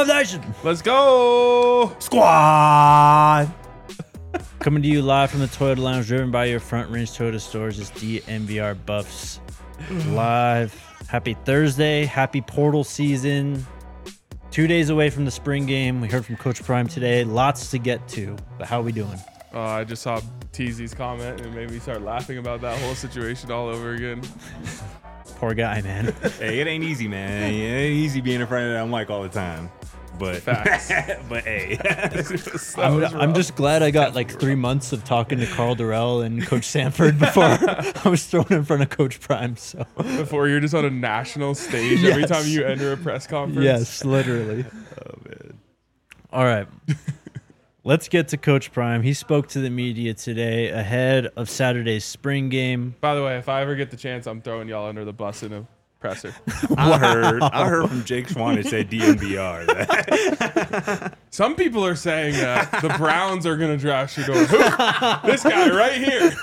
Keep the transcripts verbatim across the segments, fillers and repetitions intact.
Buff Nation. Let's go. Squad. Coming to you live from the Toyota Lounge, driven by your Front Range Toyota stores. It's D N V R Buffs live. Happy Thursday. Happy portal season. Two days away from the spring game. We heard from Coach Prime today. Lots to get to, but how are we doing? Uh, I just saw T Z's comment and it made me start laughing about that whole situation all over again. Poor guy, man. Hey, it ain't easy, man. It ain't easy being in front of that mic all the time. But Facts. but hey, I'm, I'm just glad I got like three months of talking to Carl Durrell and Coach Sanford before I was thrown in front of Coach Prime. So Before you're just on a national stage Yes. every time you enter a press conference. yes, literally. oh man, All right. Let's get to Coach Prime. He spoke to the media today ahead of Saturday's spring game. By the way, if I ever get the chance, I'm throwing y'all under the bus in a presser. I heard I heard from Jake Swan it said D N V R. Some people are saying that the Browns are going to draft Shedeur. Who? This guy right here.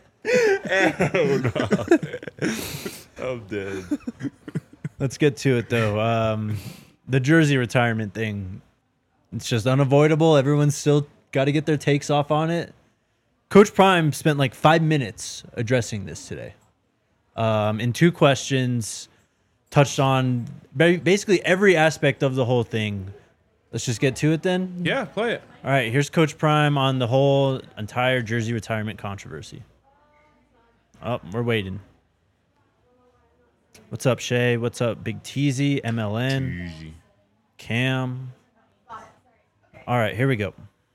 oh no, I'm dead. Let's get to it, though. Um, the jersey retirement thing. It's just unavoidable. Everyone's still got to get their takes off on it. Coach Prime spent like five minutes addressing this today. Um, in two questions, touched on ba- basically every aspect of the whole thing. Let's just get to it then. Yeah, play it. All right, here's Coach Prime on the whole entire jersey retirement controversy. Oh, we're waiting. What's up, Shay? What's up, Big Teasy, M L N, Easy. Cam? All right, here we go.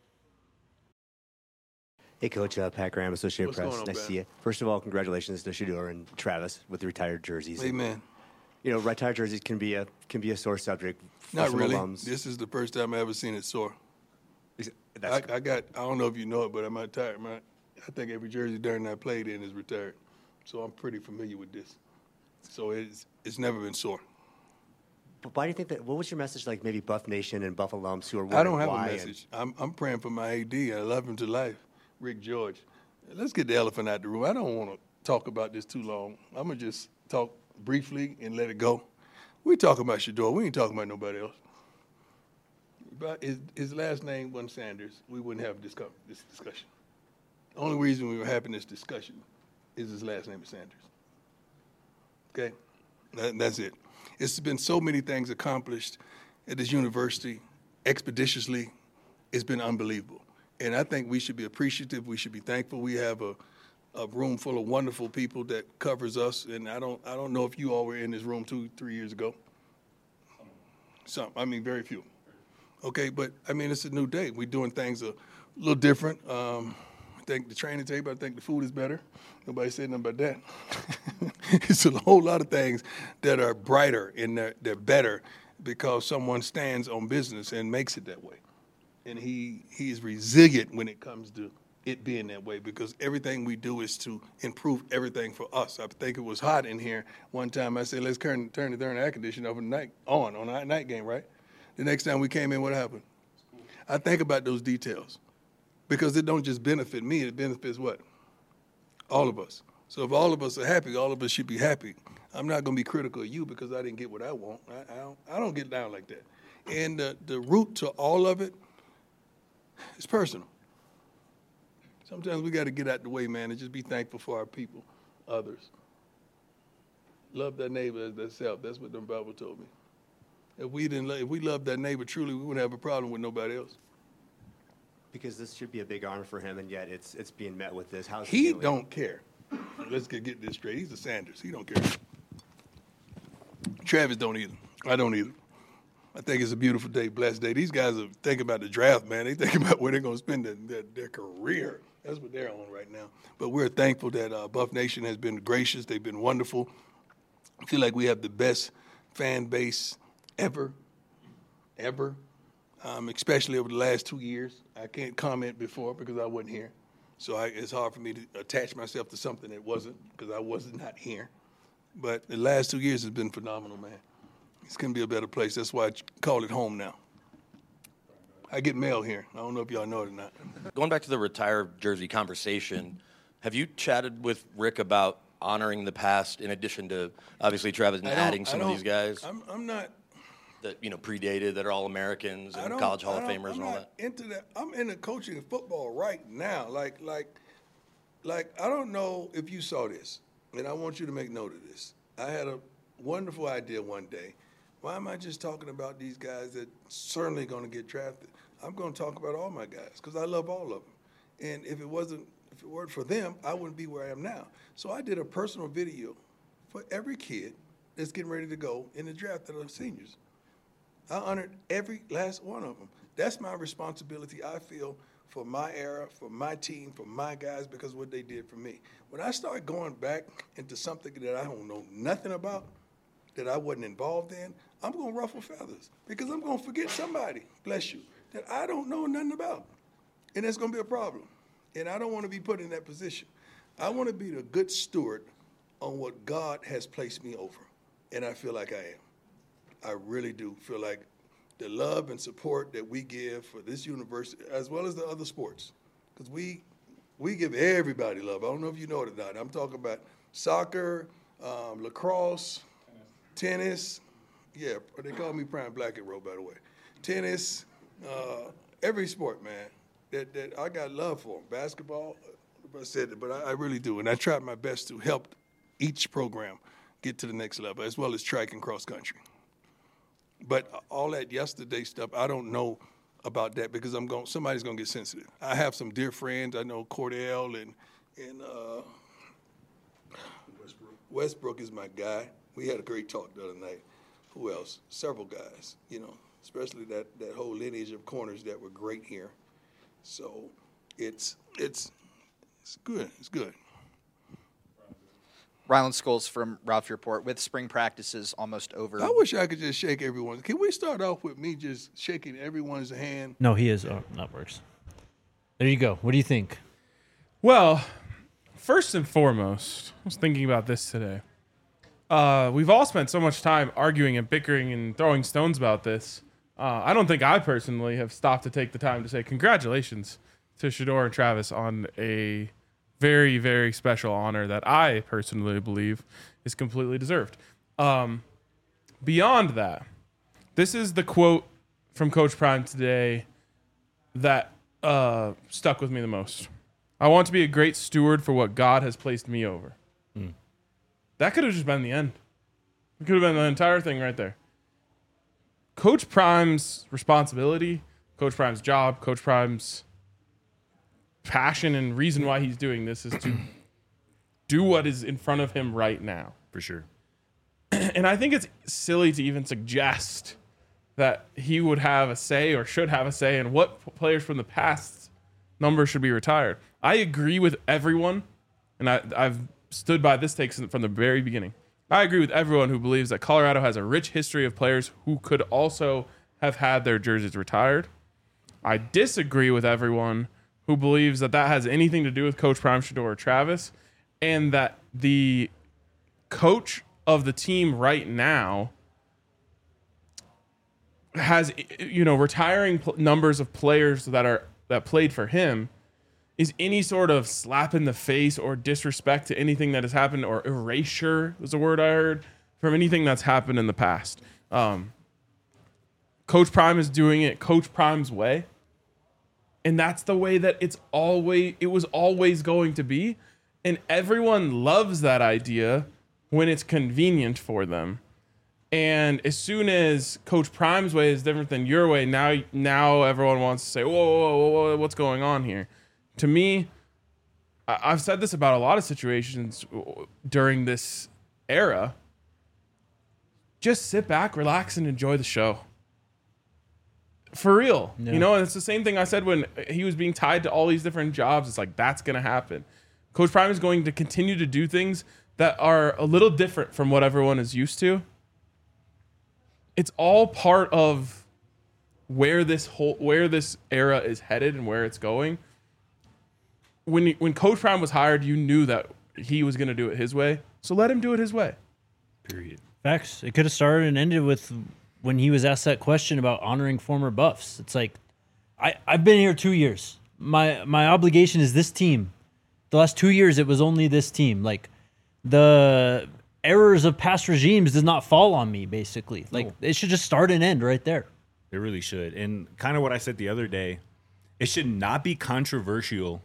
Hey, Coach, uh, Pat Graham, Associated What's Press. going on, Nice to Ben? see you. First of all, congratulations to Shedeur and Travis with the retired jerseys. Amen. You know, retired jerseys can be a can be a sore subject for Not some really. alums. This is the first time I ever seen it sore. Is- I, That's, I got, I don't know if you know it, but I'm retired. My, I think every jersey Darren I played in is retired. So I'm pretty familiar with this. So it's it's never been sore. but why do you think that? What was your message, like maybe Buff Nation and Buff alums who are I don't wondering have why a and- message. I'm, I'm praying for my A D. I love him to life, Rick George. Let's get the elephant out the room. I don't want to talk about this too long. I'm going to just talk briefly and let it go. We talking about Shedeur. We ain't talking about nobody else. But his, his last name wasn't Sanders. We wouldn't have this, co- this discussion. The only reason we were having this discussion is his last name is Sanders. Okay? That, that's it. It's been so many things accomplished at this university expeditiously. It's been unbelievable. And I think we should be appreciative. We should be thankful. We have a, a room full of wonderful people that covers us. And I don't I don't know if you all were in this room two, three years ago. Some, I mean, very few. Okay, but I mean, it's a new day. We're doing things a little different. Um, I think the training table, I think the food is better. Nobody said nothing about that. It's a whole lot of things that are brighter and they're, they're better because someone stands on business and makes it that way. And he, he is resilient when it comes to it being that way because everything we do is to improve everything for us. I think it was hot in here one time. I said, let's turn, turn the darn air conditioner off at night, on, on our night game, right? The next time we came in, what happened? I think about those details because it don't just benefit me, it benefits what? All of us. So if all of us are happy, all of us should be happy. I'm not going to be critical of you because I didn't get what I want. I, I, don't, I don't get down like that. And the, the root to all of it is personal. Sometimes we got to get out the way, man, and just be thankful for our people, others. Love thy neighbor as thyself. That's what the Bible told me. If we didn't, lo- if we loved that neighbor truly, we wouldn't have a problem with nobody else. because this should be a big honor for him, and yet it's it's being met with this. How's He feeling? don't care. Let's get, get this straight. He's a Sanders. He don't care. Travis don't either. I don't either. I think it's a beautiful day, blessed day. These guys are thinking about the draft, man. They think about where they're going to spend their, their, their career. That's what they're on right now. But we're thankful that uh, Buff Nation has been gracious. They've been wonderful. I feel like we have the best fan base ever, ever, um, especially over the last two years. I can't comment before because I wasn't here. So I, it's hard for me to attach myself to something that wasn't because I was not here. But the last two years has been phenomenal, man. It's going to be a better place. That's why I call it home now. I get mail here. I don't know if y'all know it or not. Going back to the retired jersey conversation, have you chatted with Rick about honoring the past in addition to, obviously, Travis and I don't- adding I some of don't- these guys? I'm, I'm not that you know predated that are all Americans I and don't- college Hall I of don't- Famers I'm and all not that? into that. I'm into coaching football right now. Like, like, like, I don't know if you saw this, and I want you to make note of this. I had a wonderful idea one day. Why am I just talking about these guys that certainly going to get drafted? I'm going to talk about all my guys because I love all of them. And if it wasn't, if it weren't for them, I wouldn't be where I am now. So I did a personal video for every kid that's getting ready to go in the draft that are seniors. I honored every last one of them. That's my responsibility, I feel, for my era, for my team, for my guys, because of what they did for me. When I start going back into something that I don't know nothing about, that I wasn't involved in, I'm going to ruffle feathers because I'm going to forget somebody, bless you, that I don't know nothing about. And that's going to be a problem. And I don't want to be put in that position. I want to be the good steward on what God has placed me over. And I feel like I am. I really do feel like the love and support that we give for this university, as well as the other sports, because we we give everybody love. I don't know if you know it or not. I'm talking about soccer, um, lacrosse, tennis. Yeah, they call me Prime Black and Roll, by the way. Tennis, uh, every sport, man. That that I got love for. Basketball, I said it, but I, I really do, and I tried my best to help each program get to the next level, as well as track and cross country. But all that yesterday stuff, I don't know about that because I'm going. Somebody's going to get sensitive. I have some dear friends. I know Cordell and and uh, Westbrook. Westbrook is my guy. We had a great talk the other night. Who else? Several guys. You know, especially that that whole lineage of corners that were great here. So it's it's it's good. It's good. Ryland Scholes from Ralphie Report. With spring practices almost over. I wish I could just shake everyone. Can we start off with me just shaking everyone's hand? No, he is. Oh, that works. There you go. What do you think? Well, first and foremost, I was thinking about this today. Uh, we've all spent so much time arguing and bickering and throwing stones about this. Uh, I don't think I personally have stopped to take the time to say congratulations to Shedeur and Travis on a very, very special honor that I personally believe is completely deserved. Um, beyond that, this is the quote from Coach Prime today that uh, stuck with me the most. I want to be a great steward for what God has placed me over. Mm. That could have just been the end. It could have been the entire thing right there. Coach Prime's responsibility, Coach Prime's job, Coach Prime's passion and reason why he's doing this is to do what is in front of him right now. For sure. And I think it's silly to even suggest that he would have a say or should have a say in what players from the past number should be retired. I agree with everyone, and I, I've stood by this take from the very beginning. I agree with everyone who believes that Colorado has a rich history of players who could also have had their jerseys retired. I disagree with everyone who believes that that has anything to do with Coach Prime, Shedeur, or Travis, and that the coach of the team right now has, you know, retiring pl- numbers of players that are that played for him is any sort of slap in the face or disrespect to anything that has happened, or erasure was a word I heard, from anything that's happened in the past. Um, Coach Prime is doing it Coach Prime's way. And that's the way that it's always it was always going to be. And everyone loves that idea when it's convenient for them. And as soon as Coach Prime's way is different than your way, now now everyone wants to say, whoa, whoa, whoa, whoa, what's going on here? To me, I've said this about a lot of situations during this era. Just sit back, relax, and enjoy the show. For real. Yeah. You know, and it's the same thing I said when he was being tied to all these different jobs. It's like, that's going to happen. Coach Prime is going to continue to do things that are a little different from what everyone is used to. It's all part of where this whole where this era is headed and where it's going. When when Coach Prime was hired, you knew that he was going to do it his way. So let him do it his way. Period. Facts. It could have started and ended with when he was asked that question about honoring former Buffs. It's like, I, I've been here two years. My my obligation is this team. The last two years, it was only this team. Like, the errors of past regimes does not fall on me, basically. Like, it should just start and end right there. It really should. And kind of what I said the other day, it should not be controversial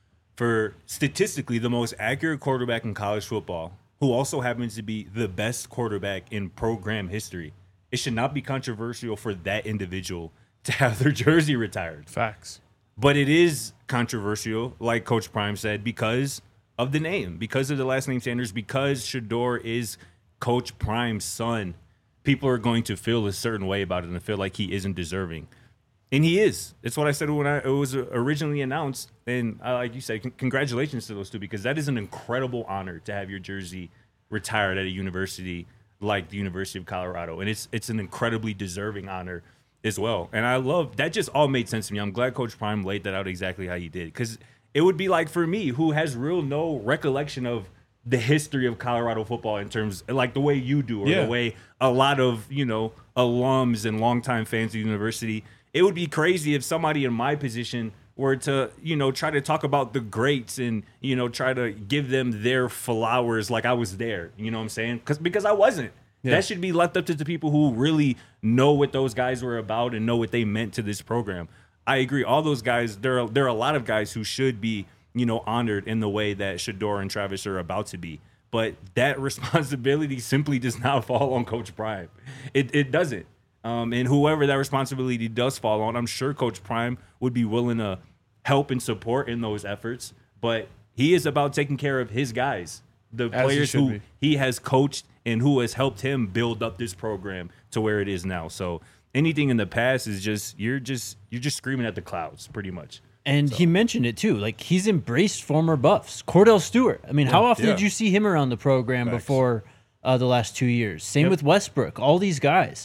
for statistically the most accurate quarterback in college football, who also happens to be the best quarterback in program history. It should not be controversial for that individual to have their jersey retired. Facts. But it is controversial, like Coach Prime said, because of the name, because of the last name Sanders, because Shedeur is Coach Prime's son. People are going to feel a certain way about it and feel like he isn't deserving. And he is. That's what I said when I, it was originally announced. And uh, like you said, c- congratulations to those two, because that is an incredible honor to have your jersey retired at a university like the University of Colorado. And it's it's an incredibly deserving honor as well. And I love that. Just all made sense to me. I'm glad Coach Prime laid that out exactly how he did, because it would be like for me, who has real no recollection of the history of Colorado football in terms like the way you do, or Yeah. the way a lot of, you know, alums and longtime fans of the university. It would be crazy if somebody in my position were to, you know, try to talk about the greats and, you know, try to give them their flowers like I was there. You know what I'm saying? Because because I wasn't. Yeah. That should be left up to the people who really know what those guys were about and know what they meant to this program. I agree. All those guys, there are there are a lot of guys who should be, you know, honored in the way that Shedeur and Travis are about to be. But that responsibility simply does not fall on Coach Prime. It it doesn't. Um, and whoever that responsibility does fall on, I'm sure Coach Prime would be willing to help and support in those efforts. But he is about taking care of his guys, the As he players should who be. he has coached and who has helped him build up this program to where it is now. So anything in the past is just you're just you're just screaming at the clouds, pretty much. And he mentioned it too. Like, he's embraced former buffs. Cordell Stewart. I mean, how often Yeah. did you see him around the program Facts. before uh, the last two years? Same Yep. with Westbrook. All these guys.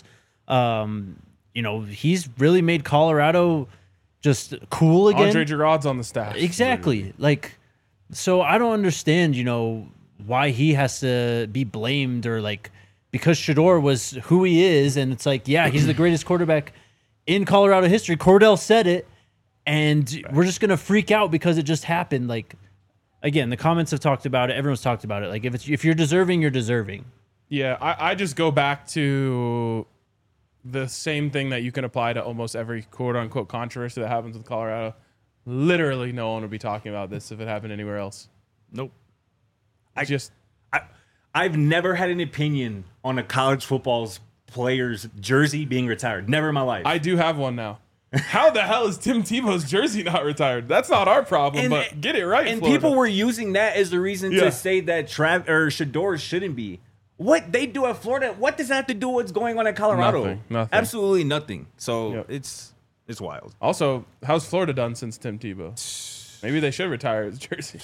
Um, you know, he's really made Colorado just cool again. Andre Giroud's on the staff. Exactly. Like, so I don't understand, you know, why he has to be blamed, or like, because Shedeur was who he is, and it's like, yeah, he's the greatest quarterback in Colorado history. Cordell said it, and we're just gonna freak out because it just happened. Like, again, the comments have talked about it. Everyone's talked about it. Like, if it's if you're deserving, you're deserving. Yeah, I, I just go back to the same thing that you can apply to almost every quote unquote controversy that happens with Colorado. Literally, no one would be talking about this if it happened anywhere else. Nope. I just I, I've never had an opinion on a college football's player's jersey being retired. Never in my life. I do have one now. How the hell is Tim Tebow's jersey not retired? That's not our problem, And- but get it right. and Florida. people were using that as the reason Yeah. to say that Trav or Shedeur shouldn't be. What they do at Florida, what does that have to do with what's going on at Colorado? Nothing, nothing. Absolutely nothing. So Yep. it's it's wild. Also, how's Florida done since Tim Tebow? Maybe they should retire his jersey.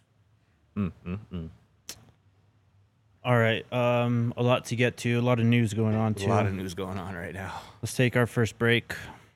All right, um, a lot to get to, a lot of news going on too. A lot of news going on right now. Let's take our first break.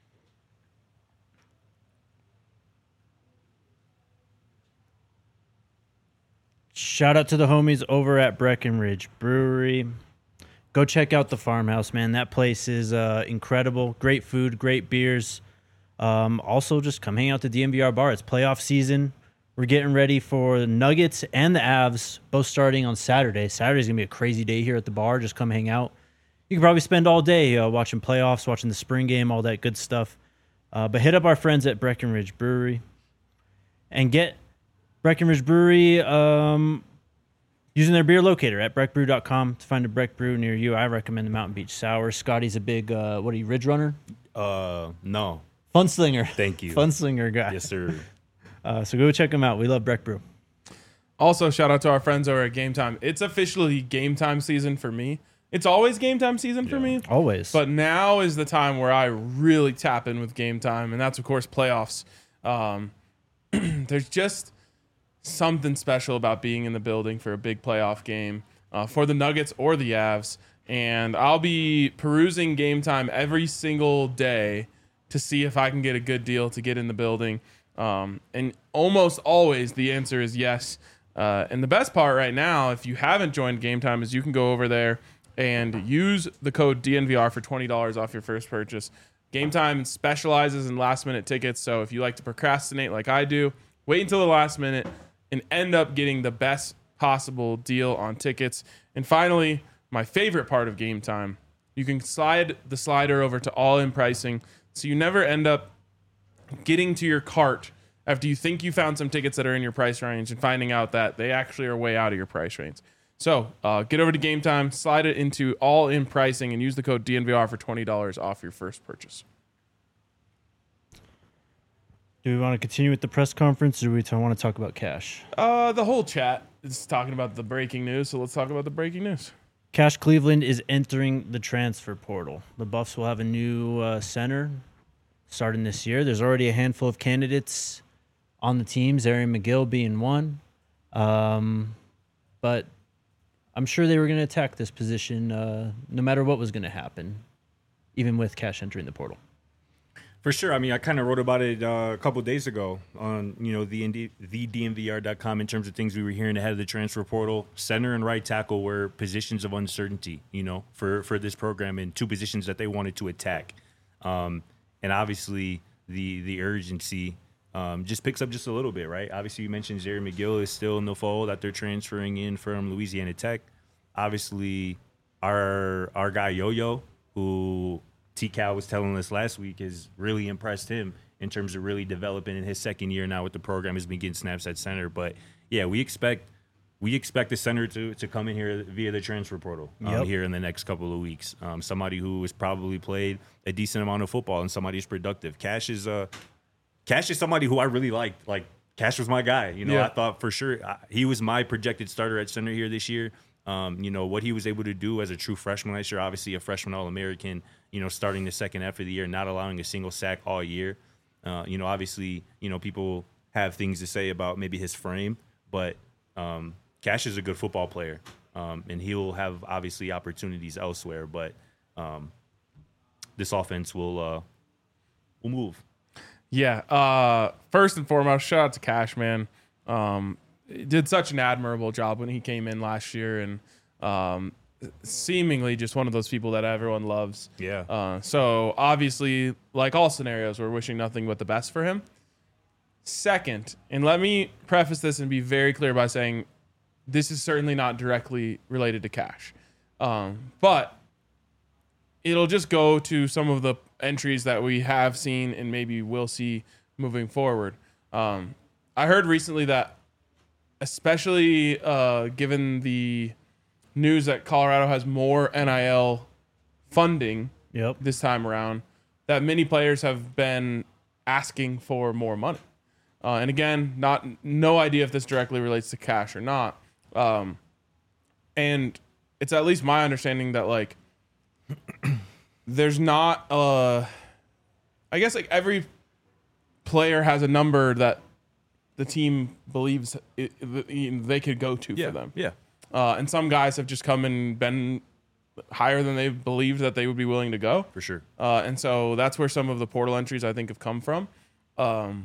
Shout out to the homies over at Breckenridge Brewery. Go check out the farmhouse, man. That place is uh, incredible. Great food, great beers. Um, also, just come hang out at the D M V R bar. It's playoff season. We're getting ready for the Nuggets and the Avs, both starting on Saturday. Saturday's going to be a crazy day here at the bar. Just come hang out. You can probably spend all day uh, watching playoffs, watching the spring game, all that good stuff. Uh, but hit up our friends at Breckenridge Brewery and get Breckenridge Brewery um, using their beer locator at breck brew dot com to find a Breck Brew near you. I recommend the Mountain Beach Sour. Scotty's a big, uh, what are you, Ridge Runner? Uh no. Funslinger. Thank you. Funslinger guy. Yes, sir. Uh, so go check them out. We love Breck Brew. Also, shout out to our friends over at Game Time. It's officially game time season for me. It's always game time season for me. Always. But now is the time where I really tap in with Game Time, and that's, of course, playoffs. Um, there's just something special about being in the building for a big playoff game uh, for the Nuggets or the Avs. And I'll be perusing Game Time every single day to see if I can get a good deal to get in the building. Um, and almost always the answer is yes. Uh, and the best part right now, if you haven't joined Game Time, is you can go over there and use the code D N V R for twenty dollars off your first purchase. Game Time specializes in last-minute tickets, so if you like to procrastinate like I do, wait until the last minute and end up getting the best possible deal on tickets. And finally, my favorite part of Game Time, you can slide the slider over to all-in pricing, so you never end up getting to your cart after you think you found some tickets that are in your price range and finding out that they actually are way out of your price range. So uh, get over to Game Time, slide it into all-in pricing, and use the code D N V R for twenty dollars off your first purchase. Do we want to continue with the press conference, or do we t- want to talk about Cash? Uh, the whole chat is talking about the breaking news, so let's talk about the breaking news. Cash Cleveland is entering the transfer portal. The Buffs will have a new uh, center starting this year. There's already a handful of candidates on the teams, Aaron McGill being one. Um, but I'm sure they were going to attack this position uh, no matter what was going to happen, even with Cash entering the portal. For sure. I mean, I kind of wrote about it uh, a couple days ago on, you know, the the D N V R dot com in terms of things we were hearing ahead of the transfer portal. Center and right tackle were positions of uncertainty, you know, for, for this program, and two positions that they wanted to attack. Um, and obviously the the urgency um, just picks up just a little bit, right? Obviously, you mentioned Jerry McGill is still in the fold that they're transferring in from Louisiana Tech. Obviously, our our guy Yo-Yo, who T-Cal was telling us last week, has really impressed him in terms of really developing in his second year now with the program. Has been getting snaps at center. But, yeah, we expect we expect the center to, to come in here via the transfer portal um, Yep. here in the next couple of weeks. Um, somebody who has probably played a decent amount of football and somebody who's productive. Cash is uh, Cash is somebody who I really liked. Like, Cash was my guy. You know, Yeah. I thought for sure I, he was my projected starter at center here this year. Um, you know, what he was able to do as a true freshman last year, obviously a freshman All-American, you know, starting the second half of the year, not allowing a single sack all year. Uh, you know, obviously, you know, people have things to say about maybe his frame, but um, Cash is a good football player, um, and he'll have obviously opportunities elsewhere, but um, this offense will uh, will move. Yeah. Uh, first and foremost, shout out to Cash, man. Um, he did such an admirable job when he came in last year, and um, seemingly just one of those people that everyone loves. Yeah. Uh, so obviously, like all scenarios, we're wishing nothing but the best for him. Second, and let me preface this and be very clear by saying this is certainly not directly related to Cash, um, but it'll just go to some of the entries that we have seen and maybe will see moving forward. Um, I heard recently that, especially uh, given the news that Colorado has more N I L funding Yep. this time around, that many players have been asking for more money. Uh, and again, not no idea if this directly relates to Cash or not. Um, and it's at least my understanding that, like, there's not uh I guess like every player has a number that the team believes it, it, they could go to for them. Yeah. Uh, and some guys have just come and been higher than they believed that they would be willing to go. For sure. Uh, and so that's where some of the portal entries I think have come from. Um,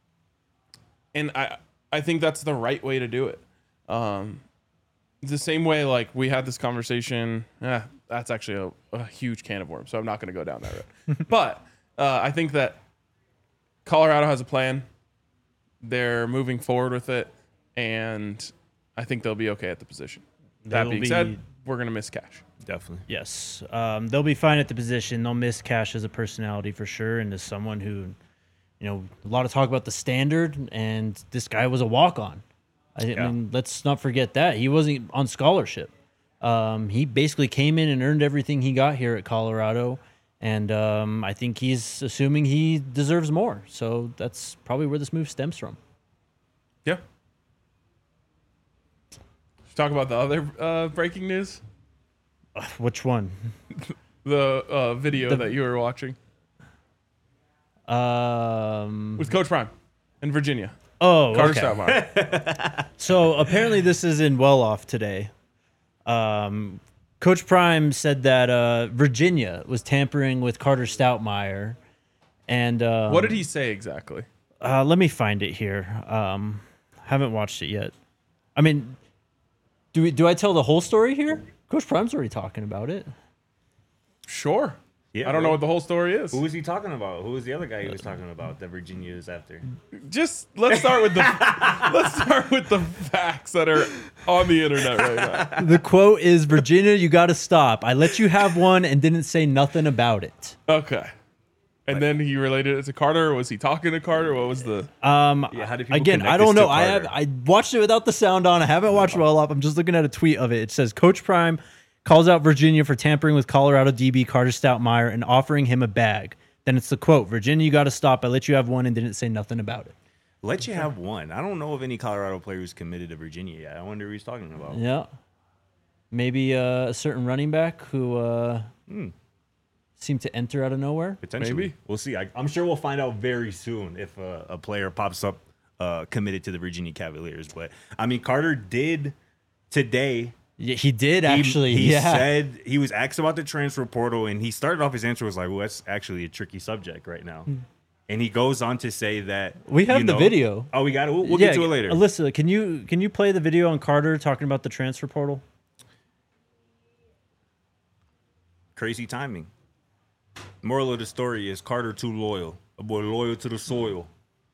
and I I think that's the right way to do it. Um, the same way, like, we had this conversation. Eh, that's actually a, a huge can of worms, so I'm not going to go down that road. But uh, I think that Colorado has a plan. They're moving forward with it, and I think they'll be okay at the position. That They'll being be- said, we're going to miss Cash. Definitely. Yes. Um, they'll be fine at the position. They'll miss Cash as a personality for sure, and as someone who, you know, a lot of talk about the standard, and this guy was a walk-on. I Yeah. mean, let's not forget that. He wasn't on scholarship. Um, he basically came in and earned everything he got here at Colorado, and um, I think he's assuming he deserves more. So that's probably where this move stems from. Yeah. Let's talk about the other uh, breaking news. Which one? The uh, video The- that you were watching Um, with Coach Prime in Virginia. oh, Carter okay. Stoutmire. So apparently this is in Well Off today. Um, Coach Prime said that uh, Virginia was tampering with Carter Stoutmire. And um, What did he say exactly? Uh, let me find it here. Um, haven't watched it yet. I mean, do we, do I tell the whole story here? Coach Prime's already talking about it. Sure. Yeah, I don't bro. know what the whole story is. Who was he talking about? Who was the other guy he was talking about that Virginia is after? Just let's start with the let's start with the facts that are on the internet right now. The quote is, Virginia, you got to stop. I let you have one and didn't say nothing about it. Okay. And then he related it to Carter. Or was he talking to Carter? What was the? Um, Yeah, how do people again, connect I this don't to know. I have Carter? I watched it without the sound on. I haven't watched it all up. I'm just looking at a tweet of it. It says Coach Prime calls out Virginia for tampering with Colorado D B Carter Stoutmeyer and offering him a bag. Then it's the quote, Virginia, you got to stop. I let you have one and didn't say nothing about it. Let you have one. I don't know of any Colorado players committed to Virginia yet. I wonder who he's talking about. Yeah. Maybe uh, a certain running back who uh, Hmm. seemed to enter out of nowhere. Potentially. Maybe. We'll see. I, I'm sure we'll find out very soon if uh, a player pops up uh, committed to the Virginia Cavaliers. But, I mean, Carter did today. Yeah, he did He- actually. He, yeah. said he was asked about the transfer portal, and he started off his answer was like, well, that's actually a tricky subject right now. And he goes on to say that We have you the know- video. Oh, we got it. We'll, we'll yeah, get to it later. Alyssa, can you can you play the video on Carter talking about the transfer portal? Crazy timing. Moral of the story is Carter too loyal. A boy loyal to the soil.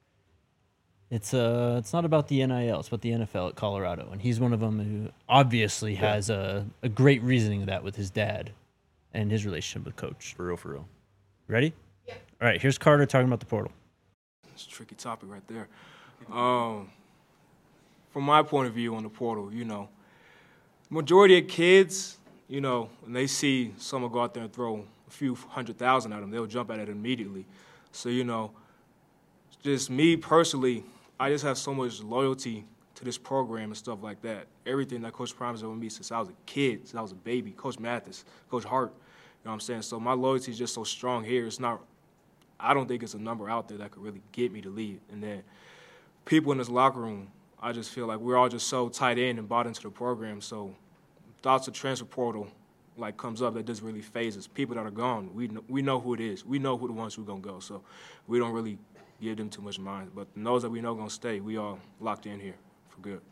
It's uh, it's not about the N I L. It's about the N F L at Colorado, and he's one of them who obviously has a, a great reasoning of that with his dad, and his relationship with Coach. For real, for real. Ready? Yeah. All right. Here's Carter talking about the portal. It's a tricky topic right there. Um, from my point of view on the portal, you know, majority of kids, you know, when they see someone go out there and throw a few hundred thousand at them, they'll jump at it immediately. So, you know, just me personally, I just have so much loyalty to this program and stuff like that. Everything that Coach Prime has done with me since I was a kid, since I was a baby, Coach Mathis, Coach Hart, you know what I'm saying? So my loyalty is just so strong here. It's not, I don't think it's a number out there that could really get me to leave. And then people in this locker room, I just feel like we're all just so tight in and bought into the program. So thoughts of transfer portal like comes up that doesn't really phase us. People that are gone, we know, we know who it is. We know who the ones who are gonna go. So we don't really give them too much mind. But those that we know gonna stay, we all locked in here for good.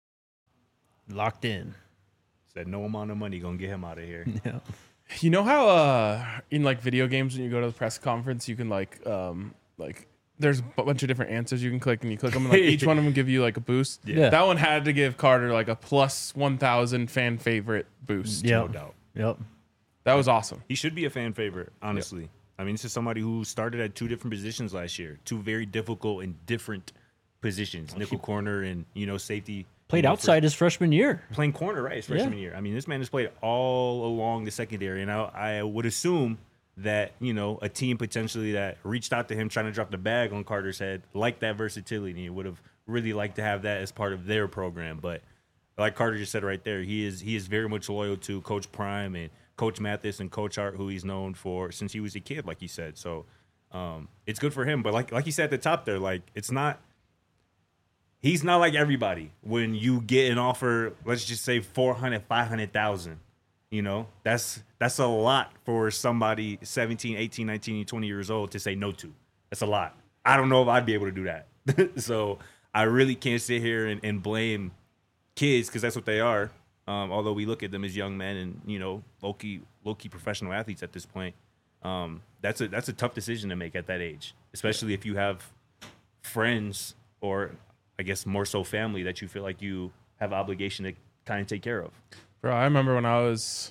Locked in. Said no amount of money gonna get him out of here. Yeah. You know how uh, in like video games when you go to the press conference, you can like um, like there's a bunch of different answers you can click, and you click them, and like each one of them give you like a boost. Yeah. That one had to give Carter like a plus one thousand fan favorite boost. Yep. No doubt. Yep. That was awesome. He should be a fan favorite, honestly. I mean, this is somebody who started at two different positions last year, two very difficult and different positions, nickel corner and, you know, safety. Played you know, outside his freshman year. for- playing corner, right, his freshman Yeah. year. I mean, this man has played all along the secondary, and I, I would assume that, you know, a team potentially that reached out to him trying to drop the bag on Carter's head liked that versatility and would have really liked to have that as part of their program. But like Carter just said right there, he is he is very much loyal to Coach Prime and Coach Mathis and Coach Hart, who he's known for since he was a kid, like he said. So um, it's good for him. But like like he said at the top there, like it's not he's not like everybody. When you get an offer, let's just say four hundred, five hundred thousand, you know, that's that's a lot for somebody seventeen, eighteen, nineteen, twenty years old to say no to. That's a lot. I don't know if I'd be able to do that. So I really can't sit here and, and blame kids, because that's what they are. Um, although we look at them as young men and, you know, low-key, low-key professional athletes at this point. Um, that's a that's a tough decision to make at that age, especially if you have friends or I guess more so family that you feel like you have obligation to kind of take care of. Bro, I remember when I was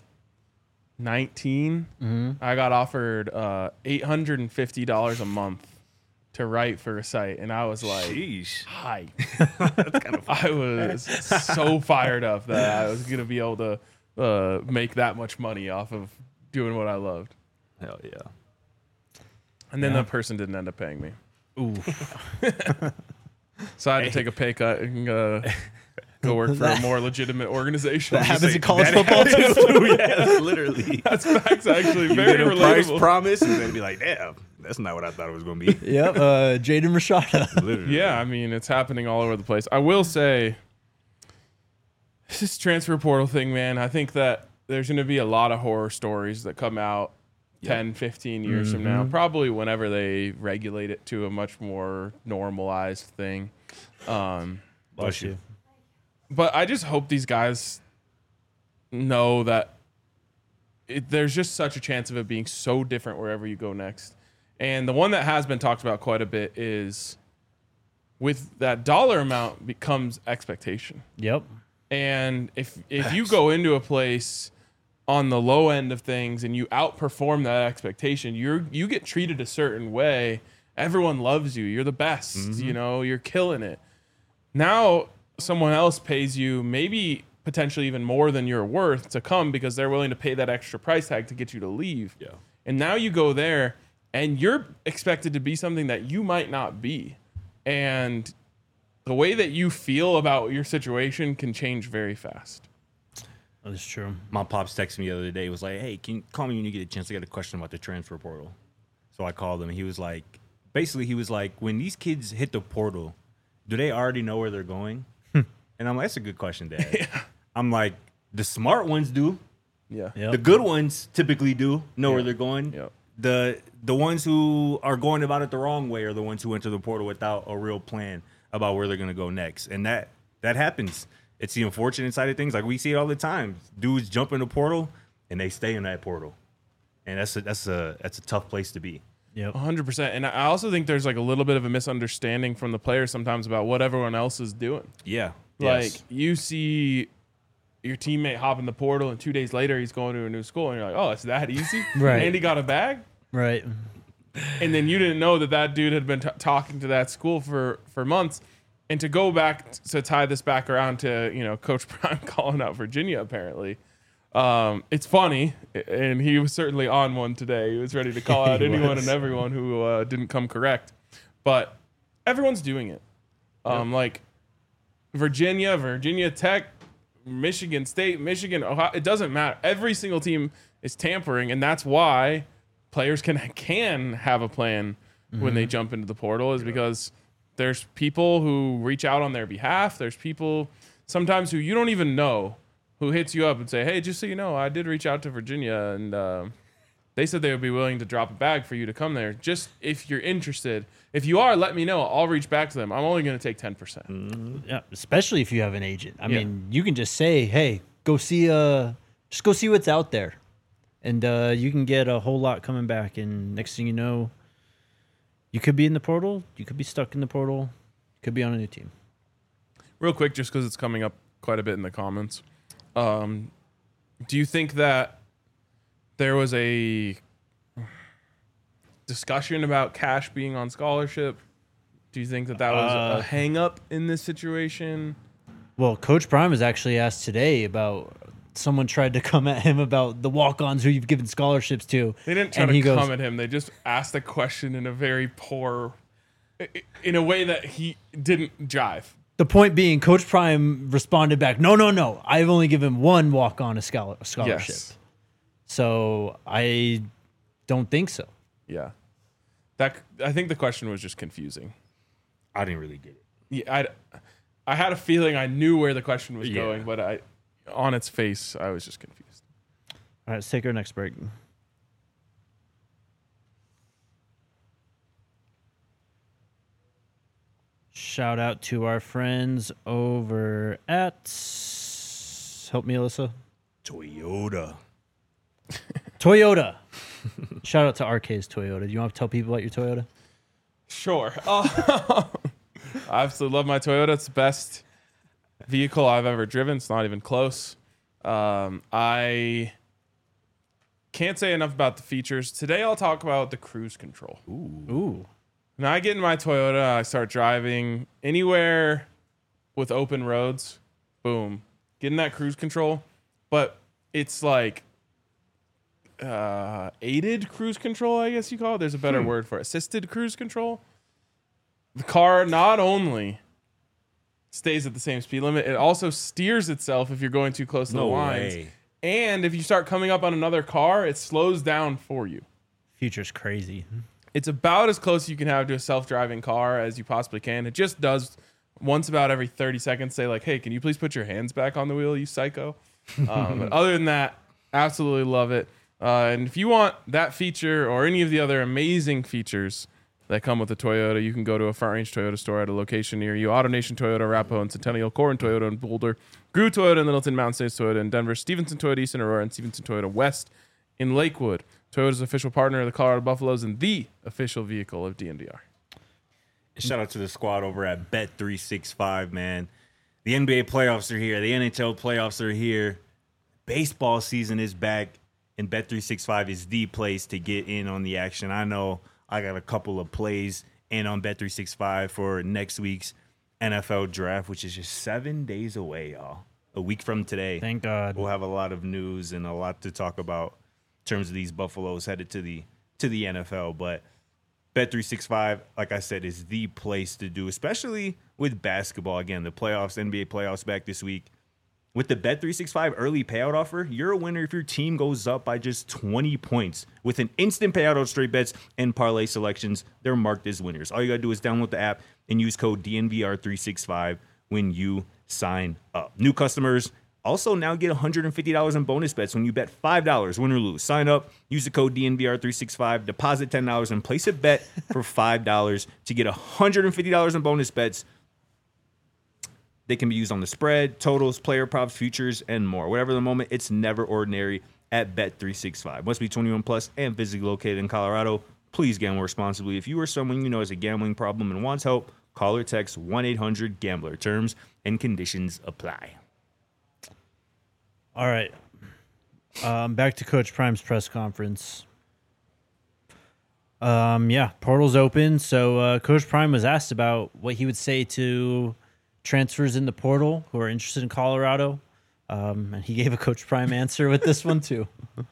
nineteen, I got offered uh, eight hundred fifty dollars a month to write for a site, and I was like, Sheesh. hi. I was so fired up that I was going to be able to uh, make that much money off of doing what I loved. Hell yeah. And then Yeah. that person didn't end up paying me. Ooh. So I had to take a pay cut and uh, go work for a more legitimate organization. That happens in college That football too. happens yes, literally. That's facts, actually. You Very get a price relatable. promise and then be like, damn, that's not what I thought it was going to be. Yep. Uh, Jaden Rashada. Literally. Yeah, I mean, it's happening all over the place. I will say, this transfer portal thing, man, I think that there's going to be a lot of horror stories that come out ten, fifteen years from now, probably whenever they regulate it to a much more normalized thing. Um, Bless you. but I just hope these guys know that it, there's just such a chance of it being so different wherever you go next. And the one that has been talked about quite a bit is with that dollar amount becomes expectation. Yep. And if if you go into a place on the low end of things and you outperform that expectation, you're you get treated a certain way. Everyone loves you. You're the best. Mm-hmm. You know, you're killing it. Now someone else pays you maybe potentially even more than you're worth to come because they're willing to pay that extra price tag to get you to leave. Yeah. And now you go there and you're expected to be something that you might not be. And the way that you feel about your situation can change very fast. That is true. My pops texted me the other day. He was like, hey, can you call me when you get a chance? I got a question about the transfer portal. So I called him. And he was like, basically, he was like, when these kids hit the portal, do they already know where they're going? And I'm like, that's a good question, Dad. Yeah. I'm like, the smart ones do. Yeah. Yep. The good ones typically do know Yeah. where they're going. Yep. The the ones who are going about it the wrong way are the ones who enter the portal without a real plan about where they're going to go next. And that that happens. It's the unfortunate side of things. Like we see it all the time. Dudes jump in the portal and they stay in that portal. And that's a, that's a that's a tough place to be. Yep. one hundred percent. And I also think there's like a little bit of a misunderstanding from the players sometimes about what everyone else is doing. Yeah. Like Yes. you see your teammate hop in the portal and two days later he's going to a new school and you're like, oh, it's that easy? Right. And he got a bag? Right. And then you didn't know that that dude had been t- talking to that school for, for months. And to go back t- to tie this back around to, you know, Coach Prime calling out Virginia, apparently, um, it's funny. And he was certainly on one today. He was ready to call out anyone was. and everyone who uh, didn't come correct. But everyone's doing it. Um, yep. Like Virginia, Virginia Tech, Michigan State, Michigan, Ohio, it doesn't matter. Every single team is tampering. And that's why players can can have a plan mm-hmm. when they jump into the portal is because there's people who reach out on their behalf. There's people sometimes who you don't even know who hits you up and say, hey, just so you know, I did reach out to Virginia and uh, they said they would be willing to drop a bag for you to come there. Just if you're interested. If you are, let me know. I'll reach back to them. I'm only going to take ten percent. Mm-hmm. Yeah, especially if you have an agent. I Yeah. mean, you can just say, hey, go see uh just go see what's out there. And uh, you can get a whole lot coming back. And next thing you know, you could be in the portal. You could be stuck in the portal. You could be on a new team. Real quick, just because it's coming up quite a bit in the comments. Um, do you think that there was a discussion about Cash being on scholarship? Do you think that that was Uh, a hang-up in this situation? Well, Coach Prime was actually asked today about someone tried to come at him about the walk-ons who you've given scholarships to. They didn't try and to he come goes, at him. They just asked the question in a very poor, in a way that he didn't jive. The point being, Coach Prime responded back, no, no, no. I've only given one walk-on a scholar- scholarship. Yes. So I don't think so. Yeah. That I think the question was just confusing. I didn't really get it. Yeah, I, I had a feeling I knew where the question was Yeah. going, but I, on its face, I was just confused. All right, let's take our next break. Shout out to our friends over at, help me, Alyssa. Toyota. Toyota. Shout out to R K's Toyota. Do you want to tell people about your Toyota? Sure. Uh, I absolutely love my Toyota. It's the best vehicle I've ever driven. It's not even close. Um, I can't say enough about the features. Today I'll talk about the cruise control. Ooh. When I get in my Toyota, I start driving anywhere with open roads. Boom. Getting that cruise control. But it's like uh, aided cruise control, I guess you call it. There's a better Hmm. word for it. Assisted cruise control. The car not only stays at the same speed limit, it also steers itself if you're going too close to No the lines. way. And if you start coming up on another car, it slows down for you. Future's crazy. It's about as close as you can have to a self-driving car as you possibly can. It just does once about every thirty seconds say like, hey, can you please put your hands back on the wheel, you psycho? Um, but other than that, absolutely love it. Uh, and if you want that feature or any of the other amazing features that come with the Toyota, you can go to a Front Range Toyota store at a location near you. AutoNation Toyota, Arapahoe and Centennial, Corin Toyota and Boulder, Grew Toyota in Littleton, Mountain States Toyota in Denver, Stevenson Toyota East in Aurora, and Stevenson Toyota West in Lakewood. Toyota's official partner of the Colorado Buffaloes and the official vehicle of D N V R. Shout out to the squad over at Bet three sixty-five, man. The N B A playoffs are here. The N H L playoffs are here. Baseball season is back, and Bet three sixty-five is the place to get in on the action. I know I got a couple of plays in on Bet three sixty-five for next week's N F L draft, which is just seven days away, y'all. A week from today. Thank God. We'll have a lot of news and a lot to talk about in terms of these Buffaloes headed to the to the N F L. But Bet three sixty-five, like I said, is the place to do, especially with basketball. Again, the playoffs, N B A playoffs back this week. With the Bet three sixty-five early payout offer, you're a winner if your team goes up by just twenty points. With an instant payout on straight bets and parlay selections, they're marked as winners. All you got to do is download the app and use code D N V R three sixty-five when you sign up. New customers also now get one hundred fifty dollars in bonus bets when you bet five dollars, win or lose. Sign up, use the code D N V R three sixty-five, deposit ten dollars, and place a bet for five dollars to get one hundred fifty dollars in bonus bets. They can be used on the spread, totals, player props, futures, and more. Whatever the moment, it's never ordinary at Bet three sixty-five. Must be twenty-one plus and physically located in Colorado. Please gamble responsibly. If you or someone you know has a gambling problem and wants help, call or text one eight hundred gambler. Terms and conditions apply. All right. Um, back to Coach Prime's press conference. Um, yeah, portal's open. So uh, Coach Prime was asked about what he would say to transfers in the portal who are interested in Colorado. Um, and he gave a Coach Prime answer with this one too.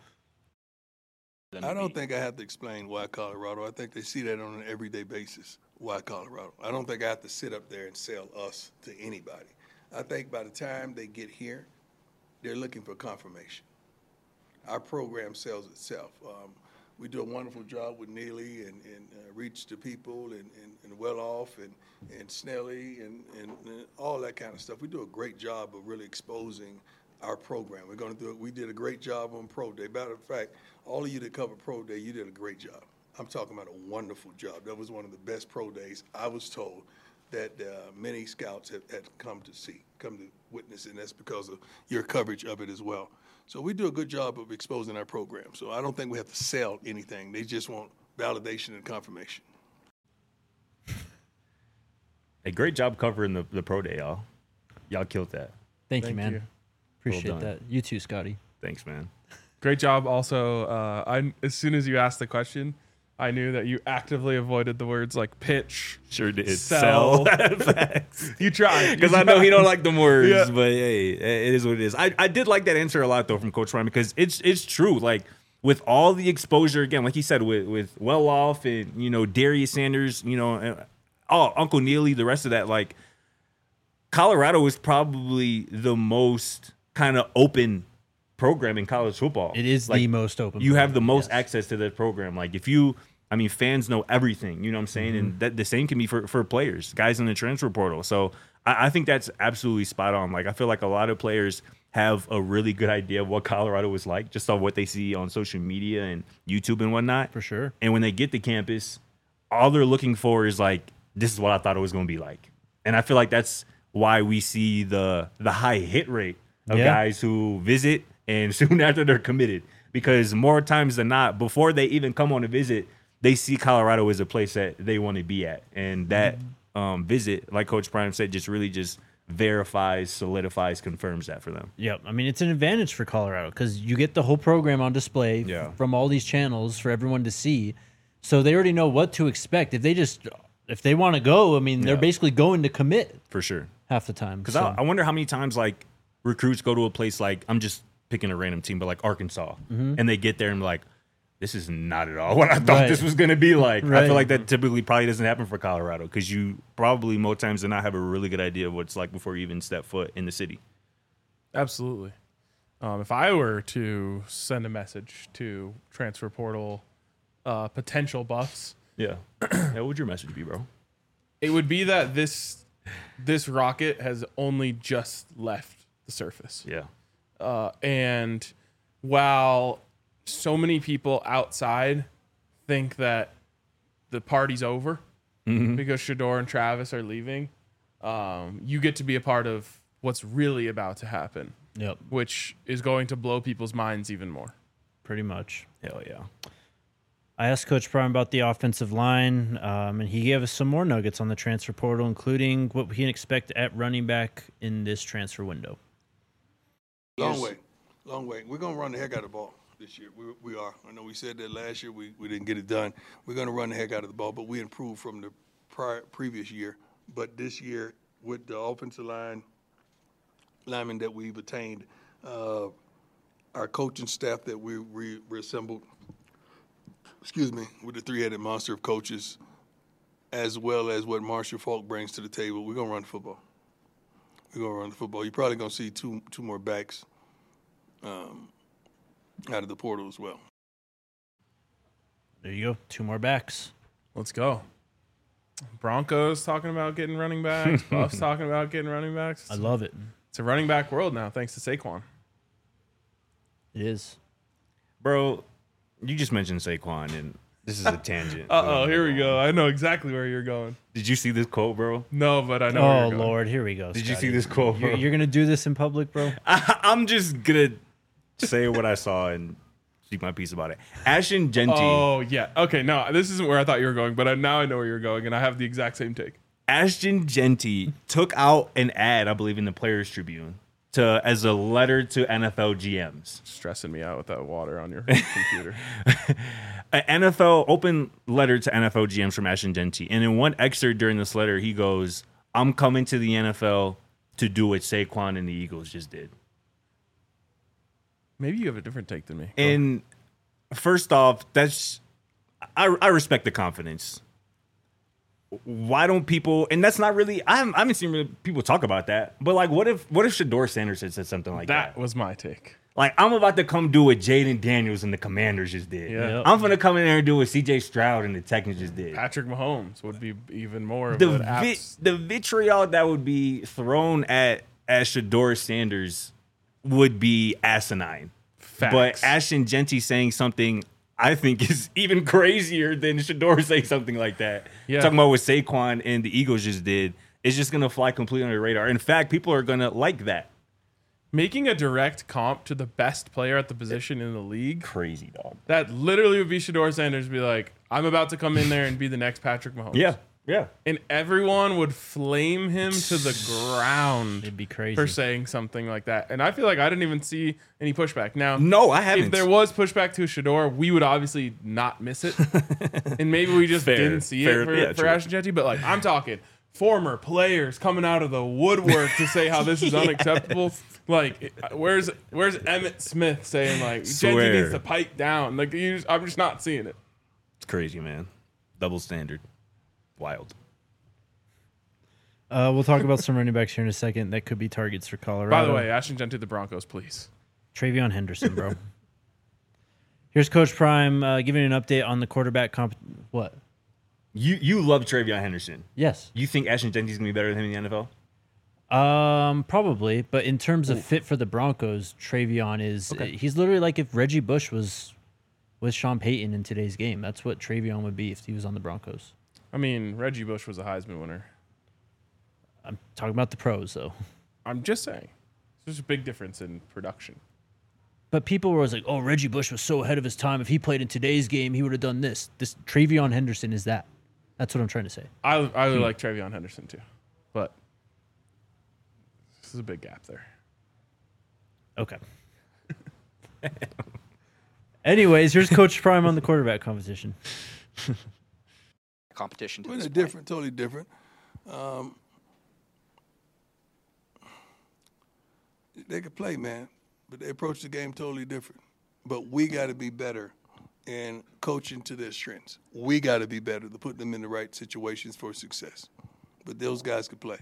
I don't think I have to explain why Colorado. I think they see that on an everyday basis. Why Colorado? I don't think I have to sit up there and sell us to anybody. I think by the time they get here, they're looking for confirmation. Our program sells itself. Um, we do a wonderful job with Neely and, and uh, Reach to People and, and, and Well Off and, and Snelly and, and, and all that kind of stuff. We do a great job of really exposing our program. We're going to do it. We did a great job on Pro Day. Matter of fact, all of you that covered Pro Day, you did a great job. I'm talking about a wonderful job. That was one of the best Pro Days, I was told, that uh, many scouts have, had come to see, come to witness, and that's because of your coverage of it as well. So we do a good job of exposing our program. So I don't think we have to sell anything. They just want validation and confirmation. A great job covering the, the Pro Day, y'all. Y'all killed that. Thank, Thank you, man. you. Appreciate Well done. that. You too, Scotty. Thanks, man. Great job. Also, uh, I as soon as you asked the question, I knew that you actively avoided the words like pitch. Sure did. Sell. Facts. You tried Because I know he don't like them words, Yeah. but hey, it is what it is. I, I did like that answer a lot though from Coach Prime because it's it's true. Like with all the exposure again, like he said, with with Well Off and you know Darius Sanders, you know, and, oh Uncle Neely, the rest of that, like Colorado is probably the most kind of open program in college football. It is like, the most open. You have the program, most yes. access to the program. Like if you, I mean, fans know everything. You know what I'm saying? Mm-hmm. And that the same can be for, for players, guys in the transfer portal. So I, I think that's absolutely spot on. Like I feel like a lot of players have a really good idea of what Colorado is like, just on what they see on social media and YouTube and whatnot. For sure. And when they get to campus, all they're looking for is like, this is what I thought it was going to be like. And I feel like that's why we see the the high hit rate of Yeah. guys who visit and soon after they're committed. Because more times than not, before they even come on a visit, they see Colorado as a place that they want to be at. And that um, visit, like Coach Prime said, just really just verifies, solidifies, confirms that for them. Yep. I mean, it's an advantage for Colorado because you get the whole program on display Yeah. from all these channels for everyone to see. So they already know what to expect. If they just, if they want to go, I mean, they're Yeah. basically going to commit For sure. half the time. Because So, I, I wonder how many times like recruits go to a place like, I'm just picking a random team, but like Arkansas, and they get there and be like, this is not at all what I thought Right. this was going to be like. I Right. feel like that typically probably doesn't happen for Colorado because you probably more times than not have a really good idea of what it's like before you even step foot in the city. Absolutely. Um, if I were to send a message to transfer portal uh, potential buffs, Yeah. yeah. What would your message be, bro? it would be that this this rocket has only just left the surface. Yeah. Uh, and while so many people outside think that the party's over because Shedeur and Travis are leaving, um, you get to be a part of what's really about to happen, yep. which is going to blow people's minds even more. pretty much. Hell yeah. I asked Coach Prime about the offensive line, um, and he gave us some more nuggets on the transfer portal, including what we can expect at running back in this transfer window. Long way. Long way. We're going to run the heck out of the ball this year. We, we are. I know we said that last year. We, we didn't get it done. We're going to run the heck out of the ball, but we improved from the prior previous year. But this year, with the offensive line, linemen that we've attained, uh, our coaching staff that we re- reassembled, excuse me, with the three-headed monster of coaches, as well as what Marshall Falk brings to the table, we're going to run the football. We're going to run the football. You're probably going to see two two more backs um, out of the portal as well. There you go. Two more backs. Let's go. Broncos talking about getting running backs. Buffs talking about getting running backs. I love it. It's a running back world now, thanks to Saquon. It is. Bro, you just mentioned Saquon, and this is a tangent. Uh-oh, here we go. I know exactly where you're going. Did you see this quote, bro? No, but I know where Oh, you're going. Lord. Here we go. Did you Scotty. see this quote, bro? You're, you're going to do this in public, bro? I, I'm just going to say what I saw and speak my piece about it. Ashton Genty. Oh, yeah. Okay, no, this isn't where I thought you were going, but I, now I know where you're going, and I have the exact same take. Ashton Genty took out an ad, I believe, in the Players Tribune to as a letter to N F L G Ms. Stressing me out with that water on your computer. An N F L open letter to N F L G Ms from Ashton Genty. And in one excerpt during this letter, he goes, I'm coming to the N F L to do what Saquon and the Eagles just did. Maybe you have a different take than me. Go. And first off, that's I, I respect the confidence. Why don't people? And that's not really. I haven't, I haven't seen really people talk about that. But like, what if what if Shador Sanders had said something like that? That was my take. Like, I'm about to come do what Jaden Daniels and the Commanders just did. Yeah. Yep. I'm gonna come in there and do what C J Stroud and the Texans just did. Patrick Mahomes would be even more of The an vi- apps. the vitriol that would be thrown at at Shador Sanders would be asinine. Facts. But Ashton Genty saying something I think is even crazier than Shador saying something like that. Yeah. Talking about what Saquon and the Eagles just did is just going to fly completely under the radar. In fact, people are going to like that. Making a direct comp to the best player at the position in the league, Crazy, dog. that literally would be Shador Sanders be like, I'm about to come in there and be the next Patrick Mahomes. Yeah, yeah. And everyone would flame him to the ground It'd be crazy. for saying something like that. And I feel like I didn't even see any pushback. Now, No, I haven't. if there was pushback to Shador, we would obviously not miss it. And maybe we just Fair, didn't see fair, it for, yeah, for true. Ashton Genty. But like, I'm talking former players coming out of the woodwork to say how this is unacceptable. Like, where's where's Emmitt Smith saying like Genty Swear. needs to pipe down? Like, you just, I'm just not seeing it. It's crazy, man. Double standard. Wild. Uh, we'll talk about some running backs here in a second that could be targets for Colorado. By the way, Ashton Genty, the Broncos, please. Travion Henderson, bro. Here's Coach Prime uh, giving an update on the quarterback comp. What? You you love Travion Henderson. Yes. You think Ashton Genty's going to be better than him in the N F L? Um, probably, but in terms of fit for the Broncos, Travion is he's literally like if Reggie Bush was with Sean Payton in today's game. That's what Travion would be if he was on the Broncos. I mean, Reggie Bush was a Heisman winner. I'm talking about the pros though. I'm just saying. There's a big difference in production. But people were always like, "Oh, Reggie Bush was so ahead of his time. If he played in today's game, he would have done this." This Travion Henderson is that. That's what I'm trying to say. I I really Hmm. like Travion Henderson too, but this is a big gap there. Okay. Anyways, here's Coach Prime on the quarterback competition. Competition to Well, this they're point. different, totally different. Um, they could play, man, but they approach the game totally different. But we got to be better in coaching to their strengths. We got to be better to put them in the right situations for success. But those guys could play.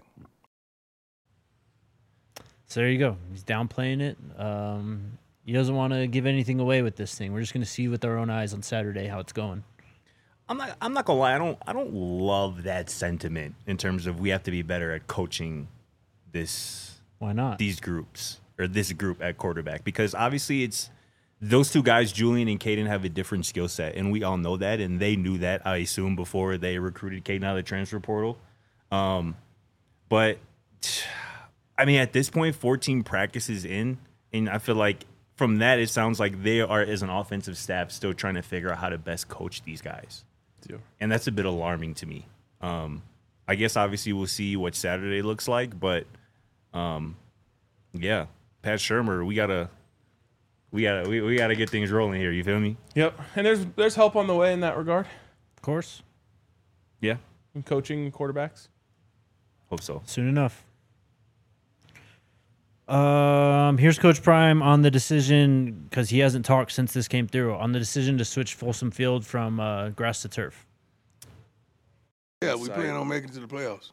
So there you go. He's downplaying it. Um, he doesn't want to give anything away with this thing. We're just going to see with our own eyes on Saturday how it's going. I'm not. I'm not gonna lie. I don't. I don't love that sentiment in terms of we have to be better at coaching this Why not? these groups or this group at quarterback because obviously it's those two guys, Julian and Caden, have a different skill set, and we all know that, and they knew that. I assume before they recruited Caden out of the transfer portal. Um, but I mean, at this point, fourteen practices in, and I feel like from that, it sounds like they are, as an offensive staff, still trying to figure out how to best coach these guys. Yeah. And that's a bit alarming to me. Um, I guess obviously we'll see what Saturday looks like, but um, yeah, Pat Shurmur, we gotta, we gotta, we, we gotta get things rolling here. You feel me? Yep. And there's there's help on the way in that regard. Of course. Yeah, In coaching quarterbacks. hope so. Soon enough. Um, here's Coach Prime on the decision, because he hasn't talked since this came through, on the decision to switch Folsom Field from uh, grass to turf. Yeah, we plan on making it to the playoffs,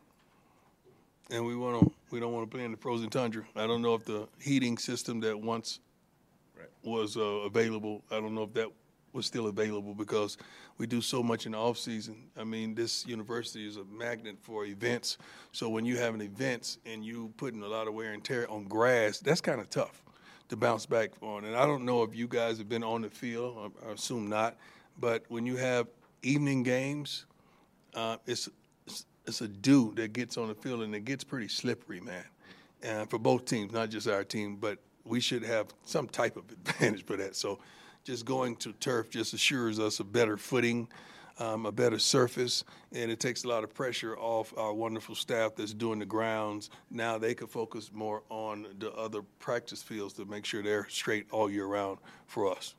and we want to. We don't want to play in the frozen tundra. I don't know if the heating system that once was uh, available. I don't know if that was still available because we do so much in the off season. I mean, this university is a magnet for events. So when you have an events and you putting a lot of wear and tear on grass, that's kind of tough to bounce back on. And I don't know if you guys have been on the field. I, I assume not. But when you have evening games. Uh, it's it's a dew that gets on the field, and it gets pretty slippery, man, uh, for both teams, not just our team. But we should have some type of advantage for that. So just going to turf just assures us a better footing, um, a better surface, and it takes a lot of pressure off our wonderful staff that's doing the grounds. Now they can focus more on the other practice fields to make sure they're straight all year round for us.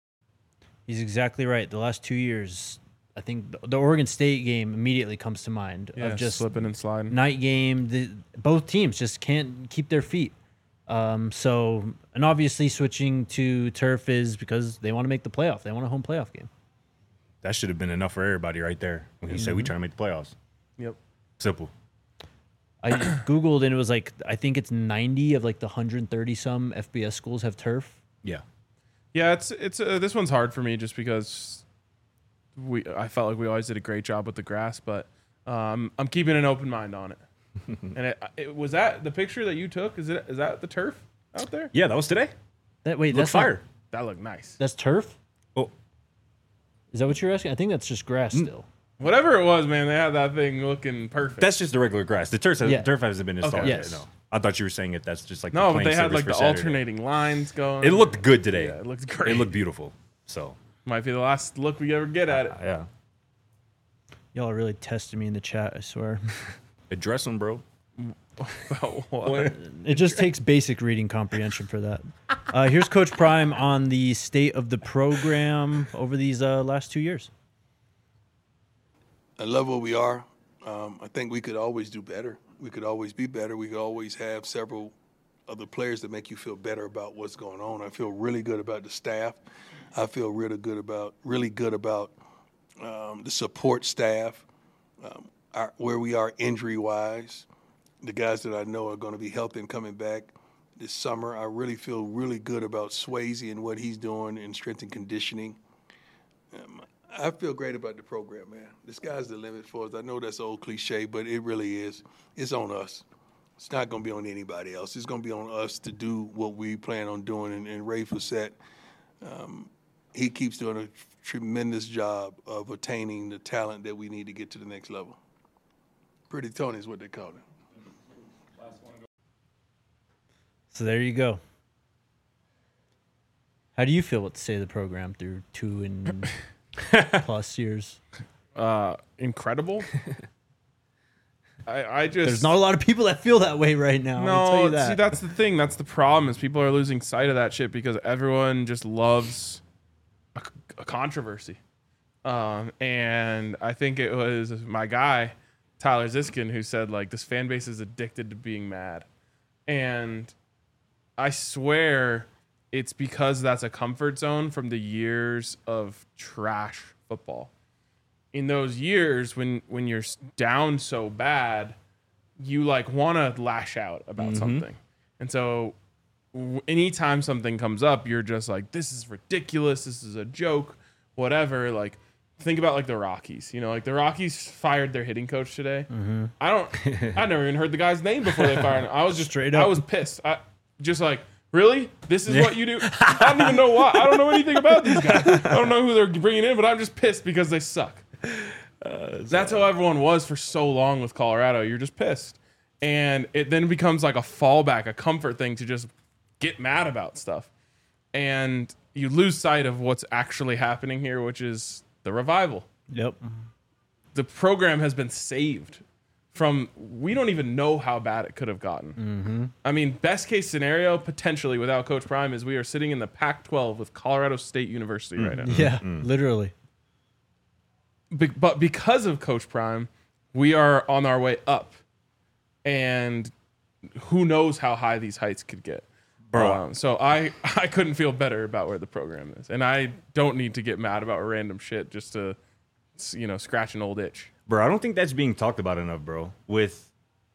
He's exactly right. The last two years, I think the Oregon State game immediately comes to mind Yeah, of just slipping and sliding. night game. The, both teams just can't keep their feet. Um, so, and obviously switching to turf is because they want to make the playoff. They want a home playoff game. That should have been enough for everybody right there. When you say we trying to make the playoffs. Yep. Simple. I Googled and it was like, I think it's ninety of like the one hundred thirty some F B S schools have turf. Yeah. Yeah, it's it's uh, this one's hard for me just because we I felt like we always did a great job with the grass, but um, I'm keeping an open mind on it. And it, it was that the picture that you took. Is it is that the turf out there? Yeah, that was today. That wait, Look that's not- fire. That looked nice. that's turf. Oh, Is that what you're asking? I think that's just grass still. Whatever it was, man, they had that thing looking perfect. that's just the regular grass. The turf, Yeah. turf hasn't been installed Okay. yet. Yes. No, I thought you were saying it. That's just like no, the but they playing had surface like for the Saturday. alternating lines going. It looked good today. Yeah, it looked great. It looked beautiful. So Might be the last look we ever get at it. yeah, Y'all are really testing me in the chat, I swear. address them, bro. What? It just takes basic reading comprehension for that. Uh, here's Coach Prime on the state of the program over these uh, last two years. I love where we are. Um, I think we could always do better. We could always be better. We could always have several other players that make you feel better about what's going on. I feel really good about the staff. I feel really good about really good about um, the support staff, um, our, where we are injury-wise. The guys that I know are going to be healthy and coming back this summer. I really feel really good about Swayze and what he's doing in strength and conditioning. Um, I feel great about the program, man. The sky's the limit for us. I know that's old cliche, but it really is. It's on us. It's not going to be on anybody else. It's going to be on us to do what we plan on doing. And, and Ray Fossett, um, he keeps doing a tremendous job of attaining the talent that we need to get to the next level. Pretty Tony is what they call him. So there you go. How do you feel about the state of the program through two and plus years? Uh, incredible. I, I just There's not a lot of people that feel that way right now. I'll tell no. you that. See, that's the thing. That's the problem is people are losing sight of that shit because everyone just loves a, a controversy. Um, and I think it was my guy Tyler Ziskin who said like this fan base is addicted to being mad, and I swear it's because that's a comfort zone from the years of trash football. In those years when when you're down so bad, you like want to lash out about Mm-hmm. something. And so w- anytime something comes up, you're just like, this is ridiculous. This is a joke, whatever. Like, think about like the Rockies, you know, like the Rockies fired their hitting coach today. Mm-hmm. I don't, I never even heard the guy's name before they fired him. I was just Straight I up. was pissed. I just like, really? This is what you do? I don't even know why. I don't know anything about these guys. I don't know who they're bringing in, but I'm just pissed because they suck. Uh, That's how everyone was for so long with Colorado. You're just pissed. And it then becomes like a fallback, a comfort thing to just get mad about stuff. and you lose sight of what's actually happening here, which is the revival. Yep. The program has been saved from, we don't even know how bad it could have gotten. Mm-hmm. I mean, best case scenario, potentially without Coach Prime, is we are sitting in the Pac twelve with Colorado State University right now. Yeah, literally. Be- but because of Coach Prime, we are on our way up. And who knows how high these heights could get. Bro. Um, so I, I couldn't feel better about where the program is. And I don't need to get mad about random shit just to, you know, scratch an old itch. Bro, I don't think that's being talked about enough, bro. With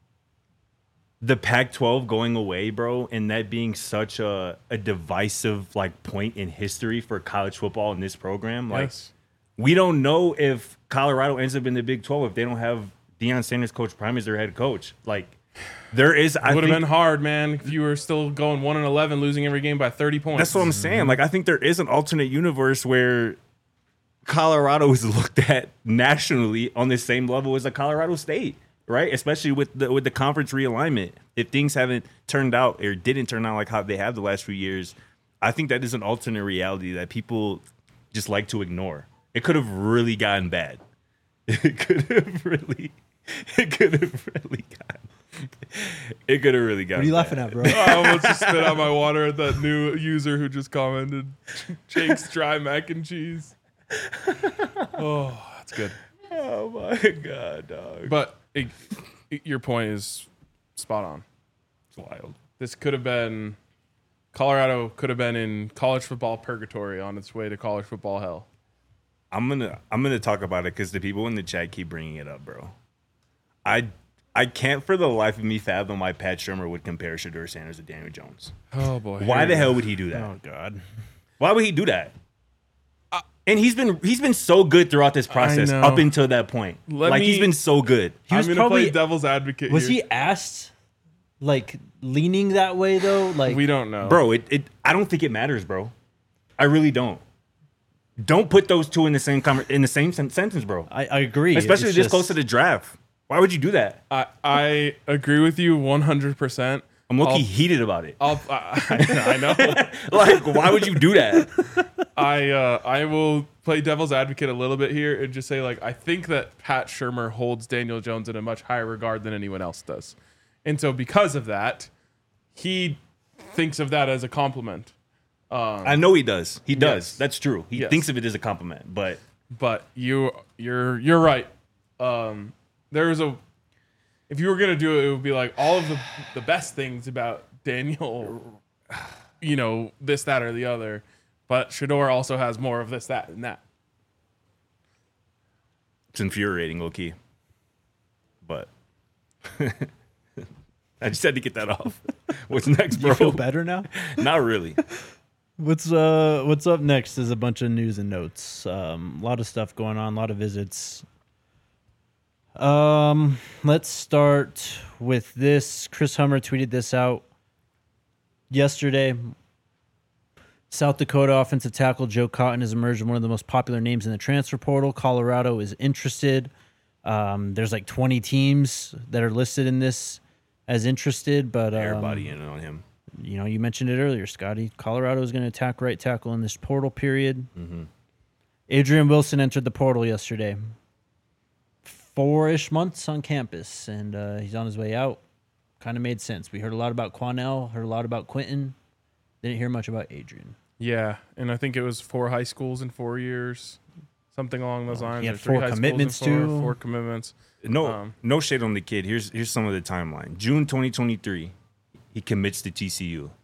the Pac twelve going away, bro, and that being such a, a divisive like point in history for college football in this program. Like, Yes. we don't know if Colorado ends up in the Big twelve if they don't have Deion Sanders, Coach Prime, as their head coach. Like, there is. I It would have think- been hard, man, if you were still going one and eleven, losing every game by thirty points. That's what I'm saying. Like, I think there is an alternate universe where Colorado is looked at nationally on the same level as a Colorado State, right? Especially with the with the conference realignment. If things haven't turned out or didn't turn out like how they have the last few years, I think that is an alternate reality that people just like to ignore. It could have really gotten bad. It could have really, it could have really gotten, it could have really gotten What are you bad. laughing at, bro? I almost just spit out my water at that new user who just commented, Jake's dry mac and cheese. Oh, that's good. Oh my God, dog. But it, it- your point is spot on. It's wild. This could have been, Colorado could have been in college football purgatory on its way to college football hell. I'm gonna I'm gonna talk about it because the people in the chat keep bringing it up, bro. I I can't for the life of me fathom why Pat Shermer would compare Shedeur Sanders to Daniel Jones. Oh, boy. Why the hell would he do that? Oh God. Why would he do that? And he's been he's been so good throughout this process know. up until that point. Let like he's me- been so good. He was I'm going to probably play devil's advocate was here. he asked like leaning that way though? Like We don't know. Bro, it, it I don't think it matters, bro. I really don't. Don't put those two in the same conver- in the same sen- sentence, bro. I, I agree. Especially It's this just- close to the draft. Why would you do that? I, I agree with you one hundred percent. I'm low-key I'll- heated about it. I'll, I, I know. Like, why would you do that? I uh, I will play devil's advocate a little bit here and just say, like, I think that Pat Shermer holds Daniel Jones in a much higher regard than anyone else does. And so because of that, he thinks of that as a compliment. I know he does. He does. Yes. That's true. He Yes. thinks of it as a compliment, but But you you're you're right. Um, there's a if you were gonna do it, it would be like all of the the best things about Daniel, you know, this, that, or the other. But Shedeur also has more of this, that, and that. it's infuriating, low key. But I just had to get that off. What's next, bro? You feel better now? Not really. What's uh what's up next is a bunch of news and notes. Um, a lot of stuff going on, a lot of visits. Um, let's start with this. Chris Hummer tweeted this out yesterday. South Dakota offensive tackle Joe Cotton has emerged as one of the most popular names in the transfer portal. Colorado is interested. Um, there's like twenty teams that are listed in this as interested, but um, Everybody in on him. you know, you mentioned it earlier, Scotty. Colorado is going to attack right tackle in this portal period. Mm-hmm. Adrian Wilson entered the portal yesterday. Four-ish months on campus, and uh, he's on his way out. Kind of made sense. We heard a lot about Quanell, heard a lot about Quentin. Didn't hear much about Adrian. Yeah, and I think it was four high schools in four years, something along those lines. he had or three four high schools in commitments, four, too. Four commitments. No, Um, no shade on the kid. Here's here's some of the timeline. June twenty twenty-three, he commits to T C U.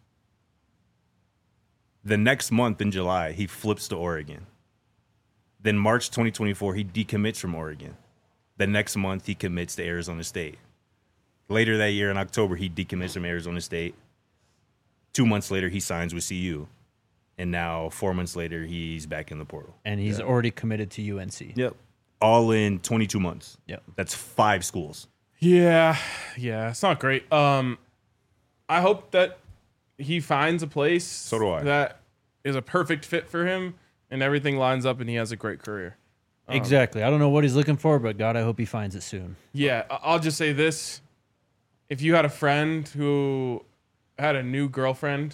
The next month in July, he flips to Oregon. Then March twenty twenty-four, he decommits from Oregon. The next month, he commits to Arizona State. Later that year in October, he decommits from Arizona State. Two months later, he signs with C U. And now, four months later, he's back in the portal. And he's already committed to U N C. Yep. All in twenty-two months. Yep. That's five schools. Yeah, yeah, it's not great. Um, I hope that he finds a place So do I. that is a perfect fit for him, and everything lines up, and he has a great career. Exactly. I don't know what he's looking for, but God, I hope he finds it soon. Yeah, I- I'll just say this: if you had a friend who had a new girlfriend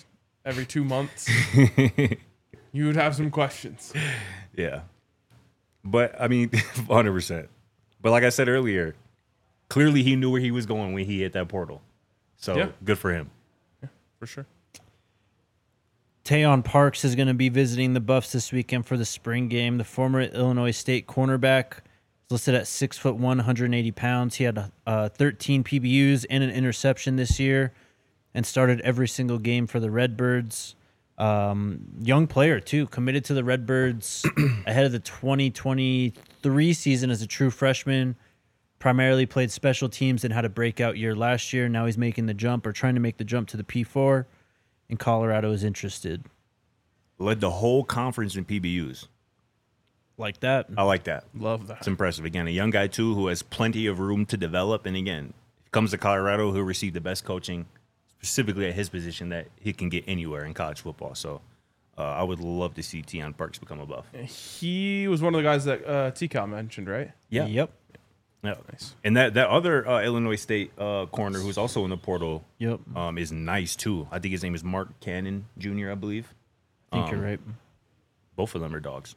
every two months, you would have some questions. Yeah. But, I mean, one hundred percent. But like I said earlier, clearly he knew where he was going when he hit that portal. So, Yeah. good for him. For sure. Tayon Parks is going to be visiting the Buffs this weekend for the spring game. The former Illinois State cornerback is listed at six foot one, one hundred eighty pounds. He had uh, thirteen P B Us and an interception this year, and started every single game for the Redbirds. Um, young player too, committed to the Redbirds ahead of the twenty twenty-three season as a true freshman. Primarily played special teams and had a breakout year last year. Now he's making the jump or trying to make the jump to the P four. And Colorado is interested. Led the whole conference in P B Us. Like that. I like that. Love that. It's impressive. Again, a young guy, too, who has plenty of room to develop. And again, if he comes to Colorado, he'll receive the best coaching, specifically at his position, that he can get anywhere in college football. So uh, I would love to see Tayon Parks become a Buff. He was one of the guys that uh, T Cal mentioned, right? Yeah. Yep. Yeah. Nice. And that, that other uh, Illinois State uh, corner who's also in the portal Yep. um, is nice, too. I think his name is Mark Cannon Junior, I believe. I think Um, you're right. Both of them are dogs.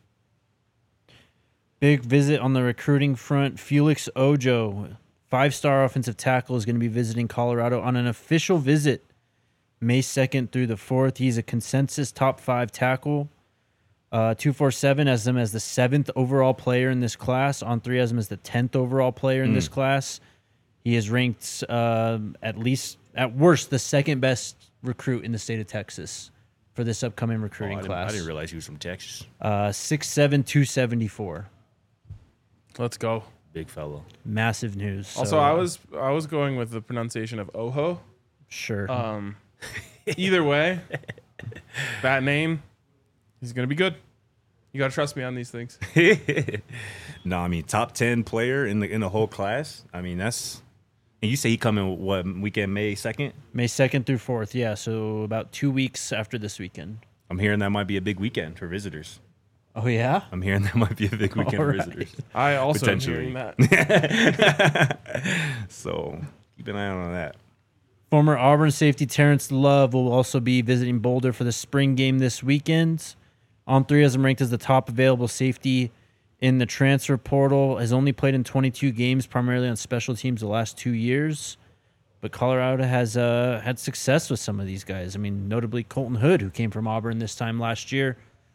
Big visit on the recruiting front. Felix Ojo, five-star offensive tackle, is going to be visiting Colorado on an official visit May second through the fourth. He's a consensus top five tackle. Uh, two forty-seven has him as the seventh overall player in this class. On three has him as the tenth overall player in Mm. this class. He is ranked uh, at least, at worst, the second best recruit in the state of Texas for this upcoming Oh, recruiting I, didn't, class. I didn't realize he was from Texas. Uh, six seven, two seventy-four. Let's go. Big fellow. Massive news. Also, So, I was I was going with the pronunciation of Oho. Sure. Um, either way, that name, he's gonna be good. You gotta trust me on these things. No, I mean top ten player in the in the whole class. I mean that's, and you say he coming what weekend, May second? May second through fourth. Yeah, so about two weeks after this weekend. I'm hearing that might be a big weekend for visitors. Oh, yeah? I'm hearing that might be a big weekend for Alright. visitors. I also am Potentially. hearing that. So keep an eye out on that. Former Auburn safety Terrence Love will also be visiting Boulder for the spring game this weekend. On three has him ranked as the top available safety in the transfer portal. Has only played in twenty-two games, primarily on special teams the last two years. But Colorado has uh, had success with some of these guys. I mean, notably Colton Hood, who came from Auburn this time last year.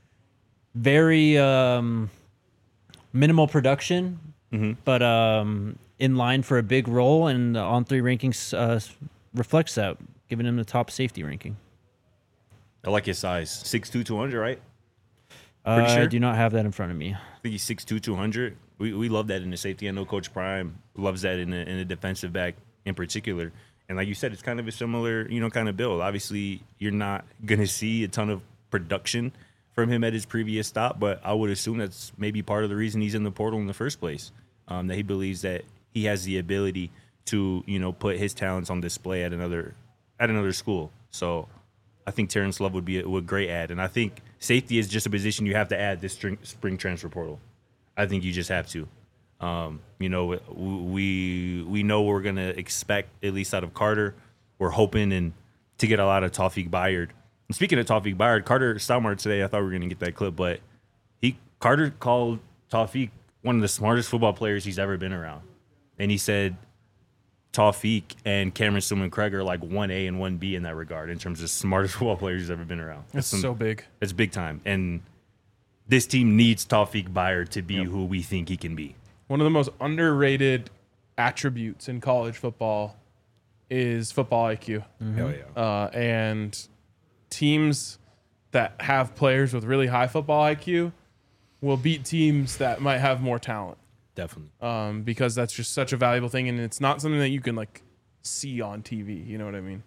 Very um, minimal production, Mm-hmm. but um, in line for a big role. And the on three rankings uh, reflects that, giving him the top safety ranking. I like his size. six two, two hundred, right? Uh, Pretty I sure? do not have that in front of me. I think he's six two, two hundred. We we love that in the safety. I know Coach Prime loves that in the, in the defensive back in particular. And like you said, it's kind of a similar, you know, kind of build. Obviously, you're not going to see a ton of production from him at his previous stop, but I would assume that's maybe part of the reason he's in the portal in the first place, um, that he believes that he has the ability to, you know, put his talents on display at another at another school. So I think Terrence Love would be a, a great add. And I think safety is just a position you have to add this spring, spring transfer portal. I think you just have to. Um, you know, we we know what we're going to expect, at least out of Carter. We're hoping and to get a lot of Tawfiq Bayard. And speaking of Tawfiq Bayard, Carter Stalmart today, I thought we were going to get that clip, but he Carter called Tawfiq one of the smartest football players he's ever been around. And he said Tawfiq and Cameron Stillman Craig are like one A and one B in that regard in terms of smartest football players he's ever been around. That's some- so big. It's big time. And this team needs Tawfiq Bayard to be who we think he can be. One of the most underrated attributes in college football is football I Q. Hell yeah. Uh, and teams that have players with really high football I Q will beat teams that might have more talent, Definitely. um, because that's just such a valuable thing, and it's not something that you can like see on T V. You know what I mean?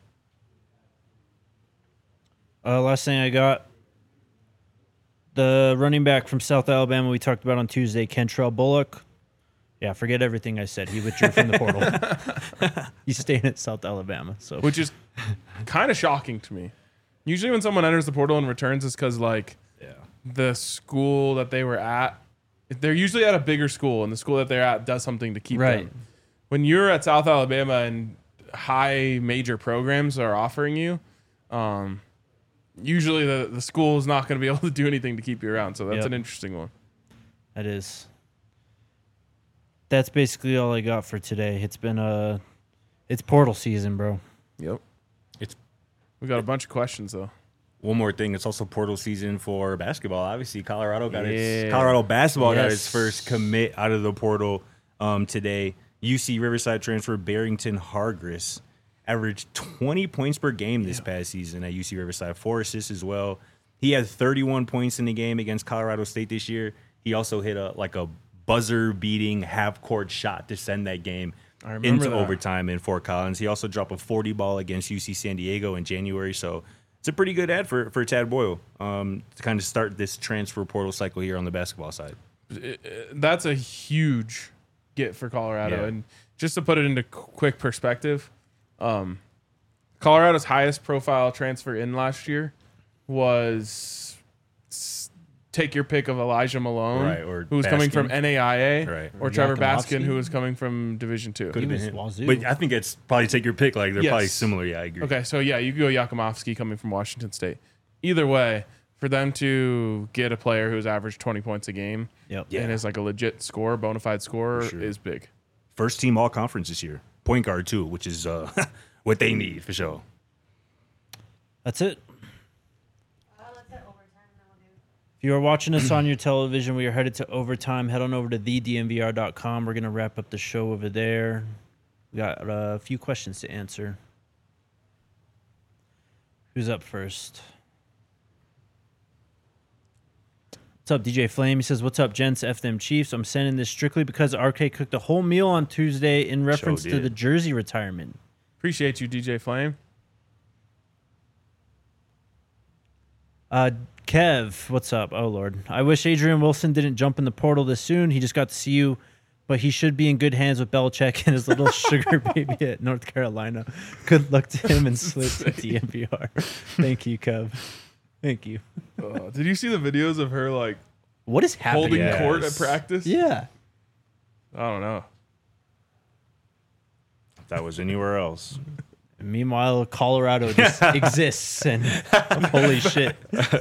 Uh, last thing I got, the running back from South Alabama we talked about on Tuesday, Kentrell Bullock. Yeah, forget everything I said. He withdrew from the portal. He's staying at South Alabama. So Which is kind of shocking to me. Usually, when someone enters the portal and returns, it's because like Yeah. the school that they were at, they're usually at a bigger school, and the school that they're at does something to keep Right. them. When you're at South Alabama and high major programs are offering you, um, usually the, the school is not going to be able to do anything to keep you around. So that's Yep. an interesting one. That is. That's basically all I got for today. It's been a, it's portal season, bro. Yep. It's We got a bunch of questions though. one more thing. It's also portal season for basketball. Obviously, Colorado got Yeah. its Colorado basketball got Yes. its first commit out of the portal um, today. U C Riverside transfer Barrington Hargris averaged twenty points per game this past season at U C Riverside, four assists as well. He had thirty-one points in the game against Colorado State this year. He also hit a like a buzzer-beating half-court shot to send that game I remember into that. overtime in Fort Collins. He also dropped a forty ball against U C San Diego in January. So it's a pretty good ad for, for Tad Boyle um, to kind of start this transfer portal cycle here on the basketball side. It- it- that's a huge get for Colorado. Yeah. And just to put it into qu- quick perspective, um, Colorado's highest profile transfer in last year was s- take your pick of Elijah Malone, Right, or who was coming from Baskin. N A I A, Right. or Trevor Yakimovsky. Baskin, who was coming from Division Two. Could have was been him. Wazoo. But I think it's probably take your pick. Like they're Yes. probably similar. Yeah, I agree. Okay, so yeah, you could go Yakimovsky coming from Washington State. Either way, for them to get a player who's averaged twenty points a game Yep. Yeah. and is like a legit scorer, bona fide scorer, For sure. is big. First team all conference this year. Point guard too, which is uh, what they need for sure. That's it. If you are watching us on your television, we are headed to overtime. Head on over to the d m v r dot com. We're going to wrap up the show over there. We got uh, a few questions to answer. Who's up first? What's up, D J Flame? He says, "What's up, gents? F them Chiefs. I'm sending this strictly because R K cooked a whole meal on Tuesday in reference to did. the jersey retirement." Appreciate you, D J Flame. Uh, Kev, what's up? Oh, Lord. I wish Adrian Wilson didn't jump in the portal this soon. He just got to see you, but he should be in good hands with Belichick and his little sugar baby at North Carolina. Good luck to him and Slit to D M V R. Thank you, Kev. Thank you. Uh, did you see the videos of her like What is happening? holding Yes. court at practice? Yeah. I don't know. If that was anywhere else. Meanwhile, Colorado just exists, and holy shit.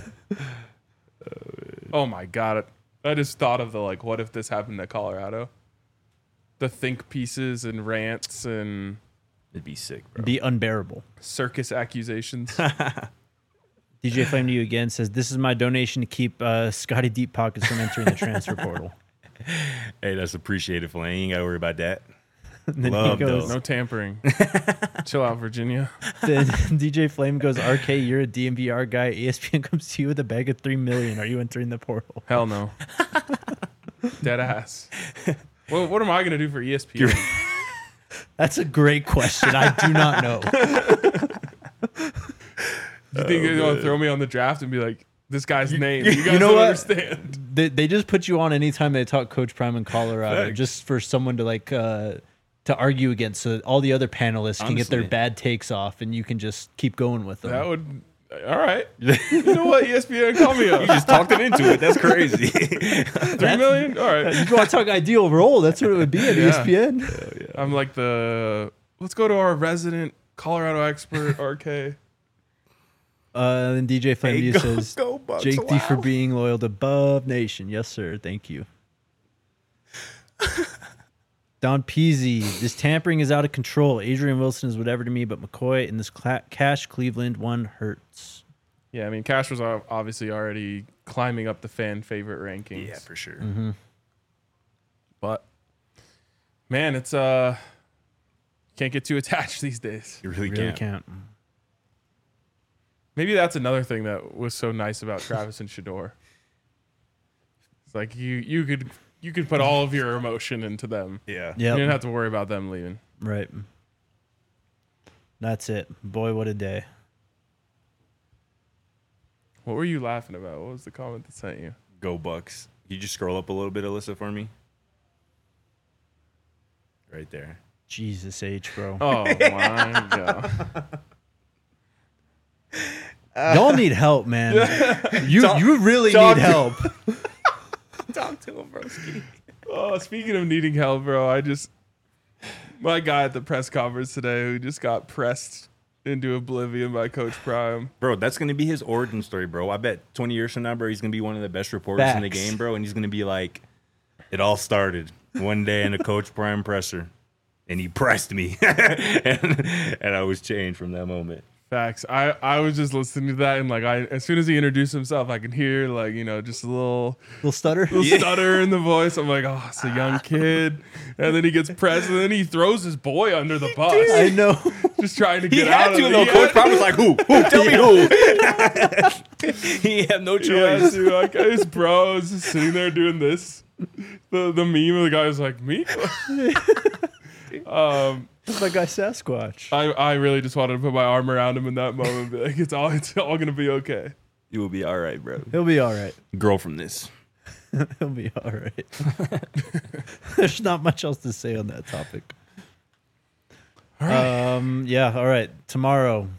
Oh my god! I just thought of the like, what if this happened to Colorado? The think pieces and rants and It'd be sick, bro. Be unbearable. circus accusations. D J Flame to you again says, "This is my donation to keep uh, Scotty Deep Pockets from entering the transfer portal." Hey, that's appreciated, Flame. You ain't got to worry about that. And then Love he goes, No tampering. Chill out, Virginia. then D J Flame goes, "R K, you're a D M V R guy. E S P N comes to you with a bag of three million. Are you entering the portal?" Hell no. Dead ass. Well, what am I gonna do for E S P N? That's a great question. I do not know. You think they're gonna throw me on the draft and be like, this guy's name? You guys know don't what? understand. They, they just put you on anytime they talk Coach Prime in Colorado, Facts. just for someone to like uh, to argue against, so that all the other panelists can get their Honestly. bad takes off, and you can just keep going with them. That would. All right. You know what? E S P N, call me up. You just talked it into it. That's crazy. Three million. All right. You want to talk ideal role? That's what it would be at E S P N. I'm like the. Let's go to our resident Colorado expert, R K. Uh, then D J Flame Hey, View go- says, go Bucks, "Jake D for wow." being loyal to Bub Nation." Yes, sir. Thank you. Don Peasy, this tampering is out of control. Adrian Wilson is whatever to me, but McCoy in this cla- Cash Cleveland one hurts. Yeah, I mean, Cash was ob- obviously already climbing up the fan favorite rankings. Yeah, for sure. Mm-hmm. But man, it's uh, can't get too attached these days. You really, Really can't. can't. Maybe that's another thing that was so nice about Travis and Shador. It's like you you could you could put all of your emotion into them. Yeah. You didn't Yep. have to worry about them leaving. Right. That's it. Boy, what a day. What were you laughing about? What was the comment that sent you? Go Bucks. You just scroll up a little bit, Alyssa, for me. Right there. Jesus H, bro. Oh my god! Y'all need help, man. You you really talk need to- help. Talk to him, broski. Oh, speaking of needing help, bro, I just my guy at the press conference today who just got pressed into oblivion by Coach Prime. Bro, that's going to be his origin story, bro. I bet twenty years from now, bro, he's going to be one of the best reporters in the Facts. game, bro. And he's going to be like, it all started one day in a Coach Prime presser. And he pressed me. and, and I was changed from that moment. Facts. I, I was just listening to that, and like I, as soon as he introduced himself, I could hear like you know just a little Little stutter. little stutter in the voice. I'm like, oh, it's a young kid, and then he gets pressed, and then he throws his boy under the bus, I know. just trying to He get had out to, of though. it. Coach Prime was like, who? Who? Tell me who. He had no Yeah, choice. dude, like his bro is just sitting there doing this. The the meme of the guy was like, me. um. It's my guy Sasquatch. I, I really just wanted to put my arm around him in that moment and be like, it's all it's all gonna be okay. You will be all right, bro. He'll be all right. Grow from this. He'll be all right. There's not much else to say on that topic. Um. Yeah. All right. Tomorrow.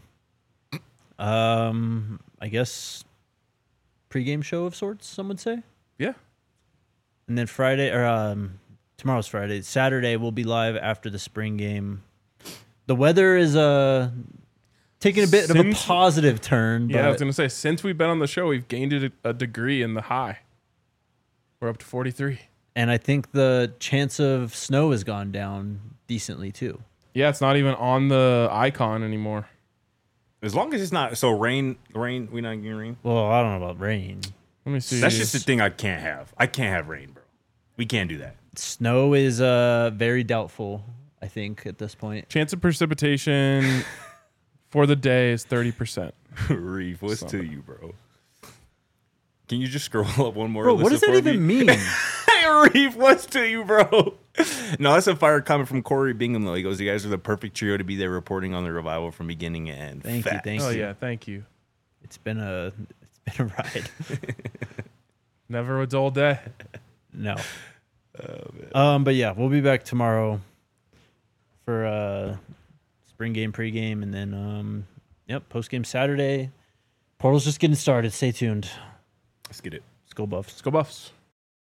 Um. I guess pregame show of sorts. Some would say. Yeah. And then Friday or um. Tomorrow's Friday. Saturday we'll be live after the spring game. The weather is uh taking a bit of a Since- positive turn. Yeah, I was but gonna say since we've been on the show, we've gained a, a degree in the high. We're up to forty-three. and I think the chance of snow has gone down decently too. Yeah, it's not even on the icon anymore. As long as it's not so rain, rain. We not getting rain. Well, I don't know about rain. Let me see. That's just the thing I can't have. I can't have rain, bro. We can't do that. Snow is uh very doubtful, I think, at this point. Chance of precipitation for the day is thirty percent. Reef, what's to you, bro? Can you just scroll up one more? Bro, what does Alyssa, that for even me? mean? Hey, Reef, what's to you, bro? No, that's a fire comment from Corey Bingham, though. He goes, you guys are the perfect trio to be there reporting on the revival from beginning to end. Thank you, Facts. thank Oh you. yeah, thank you. It's been a it's been a ride. Never a dull day. No. Um, but yeah, we'll be back tomorrow for uh spring game pregame, and then um yep, post game Saturday. Portal's just getting started. Stay tuned. Let's get it. Let's go Buffs. Let's go Buffs.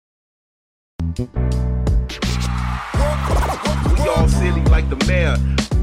We all silly like the mayor.